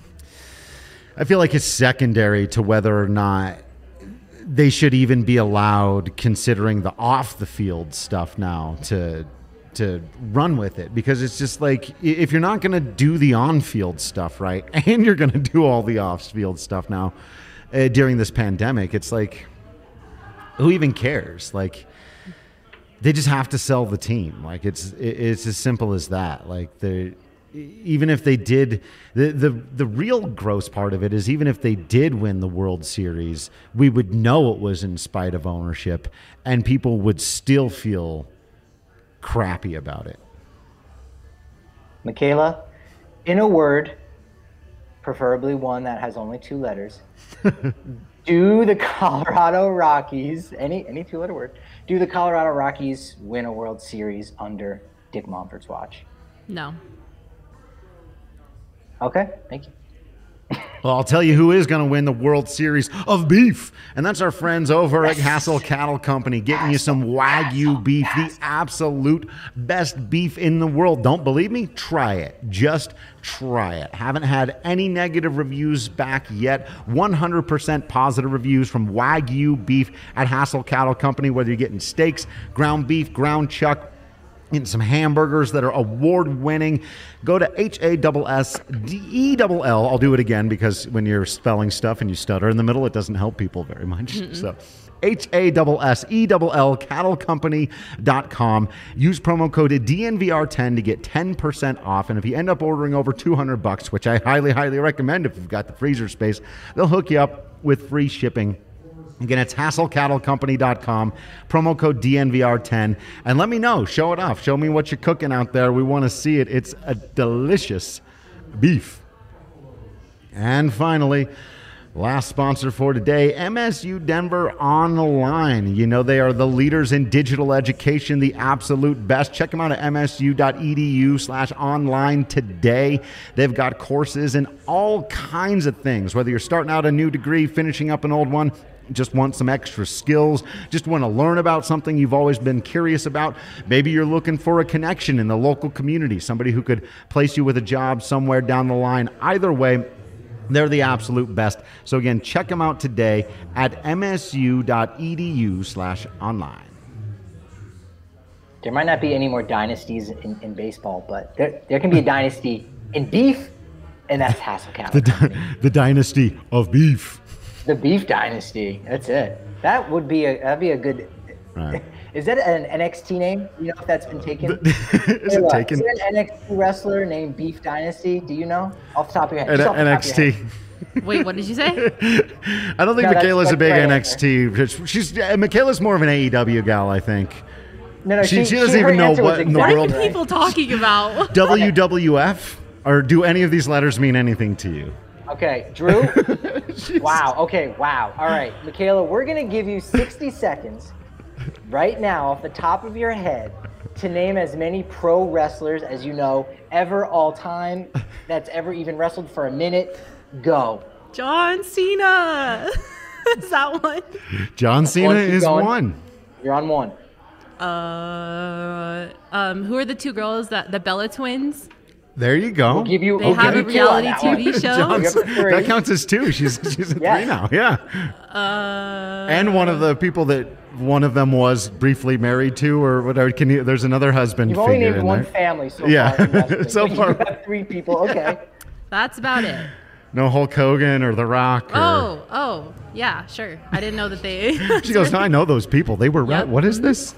I feel like it's secondary to whether or not they should even be allowed, considering the off the field stuff now, to to run with it, because it's just like, if you're not going to do the on-field stuff right, and you're going to do all the off-field stuff now uh, during this pandemic, it's like, who even cares? Like, they just have to sell the team. Like, it's it's as simple as that. Like, they even if they did, the, the the real gross part of it is, even if they did win the World Series, we would know it was in spite of ownership, and people would still feel crappy about it. Michaela, in a word, preferably one that has only two letters, do the Colorado Rockies, any any two-letter word, do the Colorado Rockies win a World Series under Dick Monfort's watch? No. Okay, thank you. Well, I'll tell you who is going to win the World Series of beef, and that's our friends over at Hassel Cattle Company, getting you some Wagyu beef, the absolute best beef in the world. Don't believe me? Try it. Just try it. Haven't had any negative reviews back yet. one hundred percent positive reviews from Wagyu beef at Hassel Cattle Company, whether you're getting steaks, ground beef, ground chuck, Getting some hamburgers that are award-winning. Go to H A S S D E L L. I'll do it again because when you're spelling stuff and you stutter in the middle, it doesn't help people very much. Mm-mm. So H A S S E L L, cattle company dot com. Use promo code D N V R ten to get ten percent off. And if you end up ordering over two hundred bucks, which I highly, highly recommend if you've got the freezer space, they'll hook you up with free shipping. Again, it's hassel cattle company dot com, promo code D N V R ten. And let me know. Show it off. Show me what you're cooking out there. We want to see it. It's a delicious beef. And finally, last sponsor for today, M S U Denver Online. You know they are the leaders in digital education, the absolute best. Check them out at M S U dot E D U slash online today. They've got courses in all kinds of things, whether you're starting out a new degree, finishing up an old one, just want some extra skills, just want to learn about something you've always been curious about. Maybe you're looking for a connection in the local community, somebody who could place you with a job somewhere down the line. Either way, they're the absolute best. So again, check them out today at M S U dot E D U slash online. There might not be any more dynasties in, in baseball, but there, there can be a dynasty in beef, and that's Hassel Cattle The, Company. the dynasty of beef. The beef dynasty. That's it. That would be a that'd be a good. Right. Is that an N X T name? You know if that's been taken? Is Hey, it look, taken? Is there an N X T wrestler named Beef Dynasty? Do you know off the top of your head? N- Just off the top N of X your T. head. Wait, what did you say? I don't think No, that's- Michaela's a that's big right N X T. She's uh, Michaela's more of an A E W gal, I think. No, no, She- she, she doesn't her even know answer was what in the What exactly are world- you people talking about? W W F? Or do any of these letters mean anything to you? Okay, Drew. Wow. Okay. Wow. All right, Michaela, we're gonna give you sixty seconds right now, off the top of your head, to name as many pro wrestlers as you know ever, all time, that's ever even wrestled for a minute. Go. John Cena. Is that one? John Cena one, keep is going. one. You're on one. Uh, um, who are the two girls that the Bella twins? There you go. We'll give you. They we'll have give a you two on reality that T V one. show. John- You're up to three. that counts as two. She's she's at Yes. three now. Yeah. Uh, And one of the people that one of them was briefly married to, or whatever. Can you? There's another husband You've only figure named in one there. family so Yeah. far. In wrestling, So but far. You have three people. Okay. that's about it. No Hulk Hogan or The Rock. Or, Oh, oh, yeah, sure. I didn't know that they. She goes, no, I know those people. They were. Yep. Right. What is this?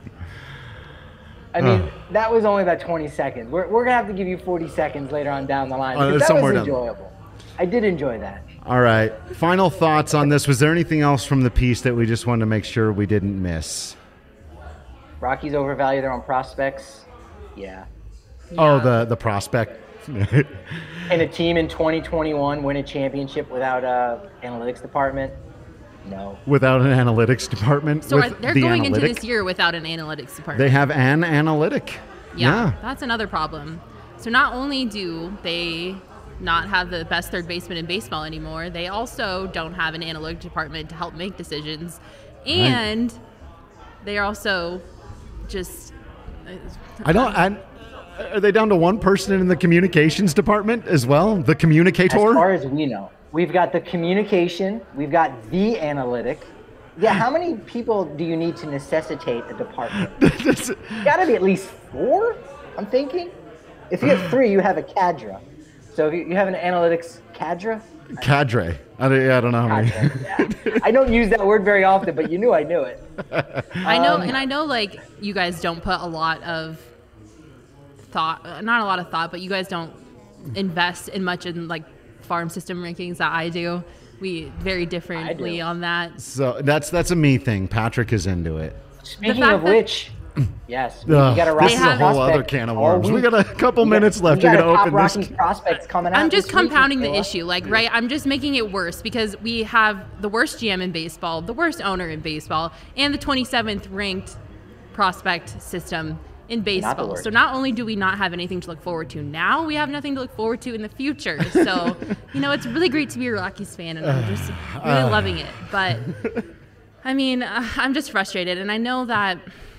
I mean, Uh. that was only about twenty seconds. We're, we're going to have to give you forty seconds later on down the line. Uh, Because that somewhere was down- enjoyable. I did enjoy that. All right. Final thoughts on this. Was there anything else from the piece that we just wanted to make sure we didn't miss? Rockies overvalue their own prospects. Yeah. Oh, Yeah. the the prospect. Can a team in twenty twenty-one win a championship without a analytics department? No. Without an analytics department. So with are, they're the going analytic, into this year without an analytics department. They have an analytic. Yeah, that's another problem. So not only do they not have the best third baseman in baseball anymore, they also don't have an analytic department to help make decisions, and they're also just. I don't. I, are they down to one person in the communications department as well? The As communicator. far as we know, we've got the communication, we've got the analytic. Yeah, how many people do you need to necessitate a department? That's- Got to be at least four, I'm thinking. If you have three, you have a cadre. So if you, you have an analytics cadre? cadre. I don't, I don't know how many. Cadre, yeah. I don't use that word very often, but you knew I knew it. I know, Um, and I know, like you guys don't put a lot of thought, uh, not a lot of thought, but you guys don't invest in much in like farm system rankings that I do. We very differently on that. So that's that's a me thing. Patrick is into it. Speaking fact of that- which, yes, we, Ugh, we got a this Rockies is a whole other prospect can of all worms. We week. got a couple We minutes got- left. we You're got gonna a top open this. Rockies prospects coming out. I'm just this week, compounding the Michaela. issue, like, right? I'm just making it worse because we have the worst G M in baseball, the worst owner in baseball, and the twenty-seventh ranked prospect system in baseball. worst. So not only do we not have anything to look forward to now, we have nothing to look forward to in the future. So, you know, it's really great to be a Rockies fan, and I'm just really loving it. But, I mean, uh, I'm just frustrated, and I know that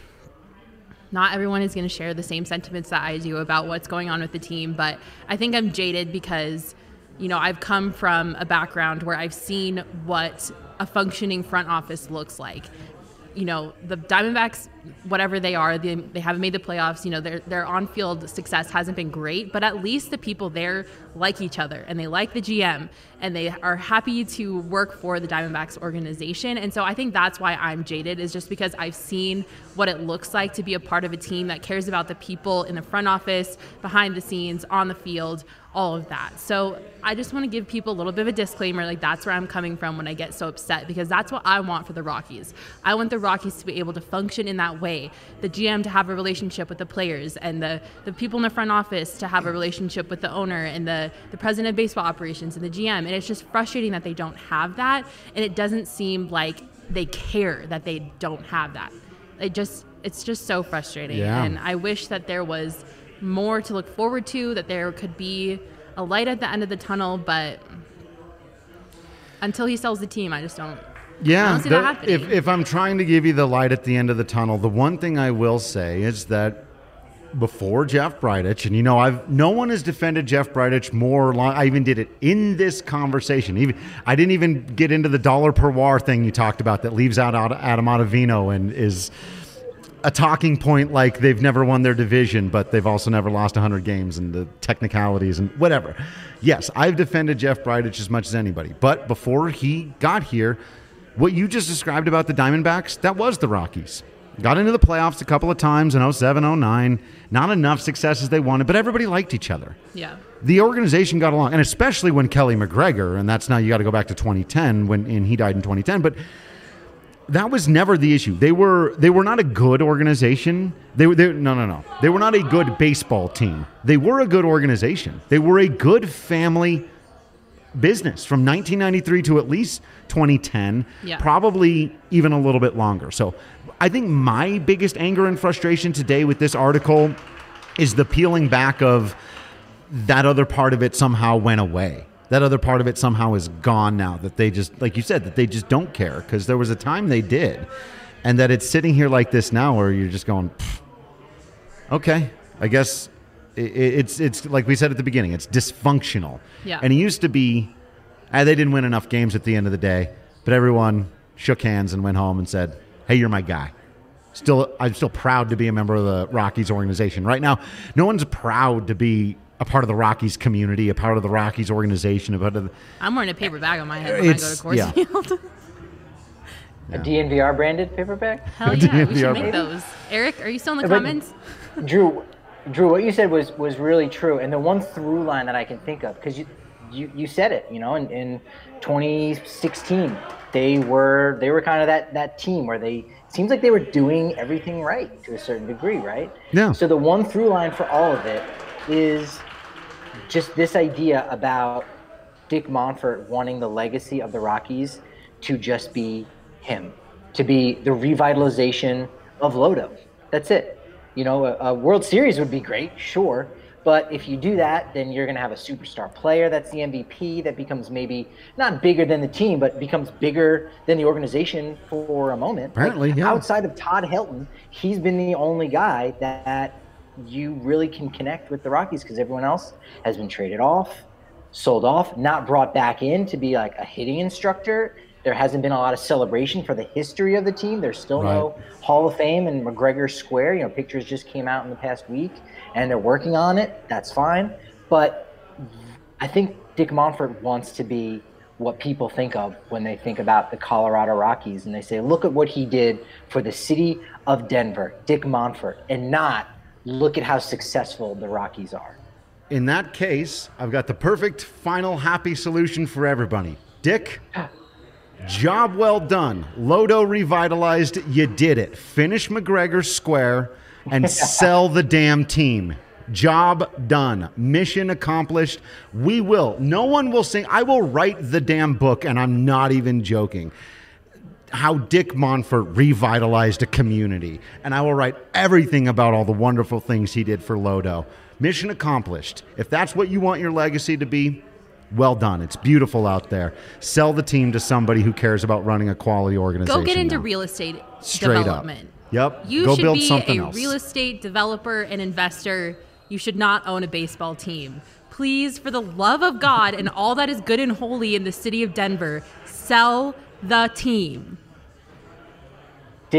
not everyone is going to share the same sentiments that I do about what's going on with the team, but I think I'm jaded because, you know, I've come from a background where I've seen what a functioning front office looks like. You know, the Diamondbacks whatever they are, they, they haven't made the playoffs. You know, their their on-field success hasn't been great, but at least the people there like each other and they like the G M and they are happy to work for the Diamondbacks organization. And so I think that's why I'm jaded, is just because I've seen what it looks like to be a part of a team that cares about the people in the front office, behind the scenes, on the field, all of that. So I just want to give people a little bit of a disclaimer, like that's where I'm coming from when I get so upset, because that's what I want for the Rockies. I want the Rockies to be able to function in that way, the G M to have a relationship with the players, and the, the people in the front office to have a relationship with the owner and the, the president of baseball operations and the G M. And it's just frustrating that they don't have that, and it doesn't seem like they care that they don't have that. It just, it's just so frustrating. Yeah. And I wish that there was more to look forward to, that there could be a light at the end of the tunnel, but until he sells the team, I just don't, yeah, I don't see the, that happening. if, if I'm trying to give you the light at the end of the tunnel, the one thing I will say is that before Jeff Bridich, and you know, I've no one has defended Jeff Bridich more. Long, I even did it in this conversation. Even I didn't even get into the dollar per W A R thing you talked about that leaves out Adam Ottavino and is a talking point like they've never won their division, but they've also never lost one hundred games and the technicalities and whatever. Yes, I've defended Jeff Bridich as much as anybody. But before he got here, what you just described about the Diamondbacks, that was the Rockies. Got into the playoffs a couple of times in oh seven, oh nine. Not enough success as they wanted, but everybody liked each other. Yeah. The organization got along, and especially when Kelly McGregor, and that's now you got to go back to twenty ten when and he died in twenty ten, but that was never the issue. They were they were not a good organization. They were they, no no no. They were not a good baseball team. They were a good organization. They were a good family business from nineteen ninety-three to at least twenty ten, yeah. Probably even a little bit longer. So I think my biggest anger and frustration today with this article is the peeling back of that other part of it somehow went away. That other part of it somehow is gone now, that they just, like you said, that they just don't care, because there was a time they did, and that it's sitting here like this now where you're just going, okay, I guess it, it's it's like we said at the beginning, it's dysfunctional. Yeah. And it used to be, ah, they didn't win enough games at the end of the day, but everyone shook hands and went home and said, hey, you're my guy. Still, I'm still proud to be a member of the Rockies organization. Right now, no one's proud to be a part of the Rockies community, a part of the Rockies organization. A part of the, I'm wearing a paper bag on my head when it's, I go to Coors yeah. Field. A D N V R branded paper bag? Hell yeah, we D N V R should make those. Eric, are you still in the But- comments? Drew, Drew, what you said was was really true, and the one through line that I can think of, because you, you you said it, you know, in, in twenty sixteen, they were they were kind of that that team where they it seems like they were doing everything right to a certain degree, right? Yeah. So the one through line for all of it is just this idea about Dick Monfort wanting the legacy of the Rockies to just be him, to be the revitalization of Lodo. That's it. You know, a, a World Series would be great, sure. But if you do that, then you're going to have a superstar player that's the M V P that becomes maybe not bigger than the team, but becomes bigger than the organization for a moment. Apparently, like, yeah. Outside of Todd Helton, he's been the only guy that you really can connect with the Rockies, because everyone else has been traded off, sold off, not brought back in to be like a hitting instructor. There hasn't been a lot of celebration for the history of the team. There's still Right. no Hall of Fame in McGregor Square. You know, pictures just came out in the past week, and they're working on it. That's fine. But I think Dick Monfort wants to be what people think of when they think about the Colorado Rockies, and they say, look at what he did for the city of Denver, Dick Monfort, and not look at how successful the Rockies are. In that case, I've got the perfect final happy solution for everybody. Dick, job well done. Lodo revitalized. You did it. Finish McGregor Square and sell the damn team. Job done. Mission accomplished. We will. No one will sing. I will write the damn book, and I'm not even joking, how Dick Monfort revitalized a community. And I will write everything about all the wonderful things he did for Lodo. Mission accomplished. If that's what you want your legacy to be, well done. It's beautiful out there. Sell the team to somebody who cares about running a quality organization. Go get into now. real estate Straight up. development. Yep. You Go should build be something a else. real estate developer and investor. You should not own a baseball team. Please, for the love of God and all that is good and holy in the city of Denver, sell the team. Dick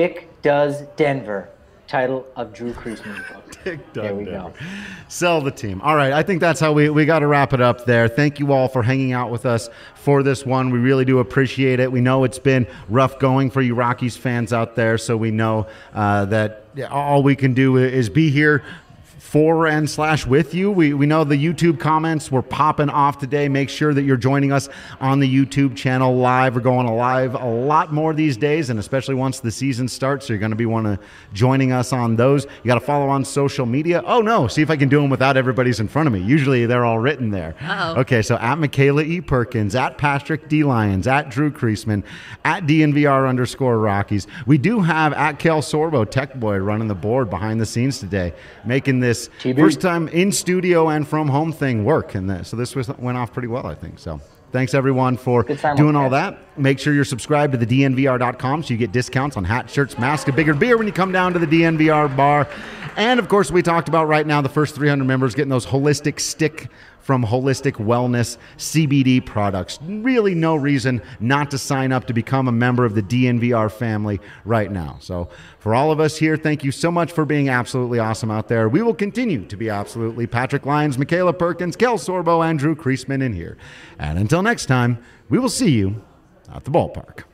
Does Denver. Title of Drew Creasman's book. Dick There we Denver. go. Sell the team. All right, I think that's how we, we got to wrap it up there. Thank you all for hanging out with us for this one. We really do appreciate it. We know it's been rough going for you Rockies fans out there, so we know uh, that all we can do is be here for and slash with you. We, we know the YouTube comments were popping off today. Make sure that you're joining us on the YouTube channel live. We're going live a lot more these days, and especially once the season starts, so you're going to be one of joining us on those. You got to follow on social media. Oh no, see if I can do them without everybody's in front of me. Usually they're all written there. Uh-oh. Okay, so at Michaela E. Perkins, at Patrick D. Lyons, at Drew Creasman, at D N V R underscore Rockies. We do have at Kel Sorbo, Tech Boy, running the board behind the scenes today, making this T B. first time in studio and from home thing work. And the, so this was, went off pretty well, I think. So thanks everyone for Good time doing with all that. that. Make sure you're subscribed to the D N V R dot com so you get discounts on hats, shirts, masks, a bigger beer when you come down to the D N V R bar. And of course, we talked about right now the first three hundred members getting those holistic stick from Holistic Wellness C B D products. Really no reason not to sign up to become a member of the D N V R family right now. So for all of us here, thank you so much for being absolutely awesome out there. We will continue to be absolutely Patrick Lyons, Michaela Perkins, Kel Sorbo, and Drew Creasman in here. And until next time, we will see you at the ballpark.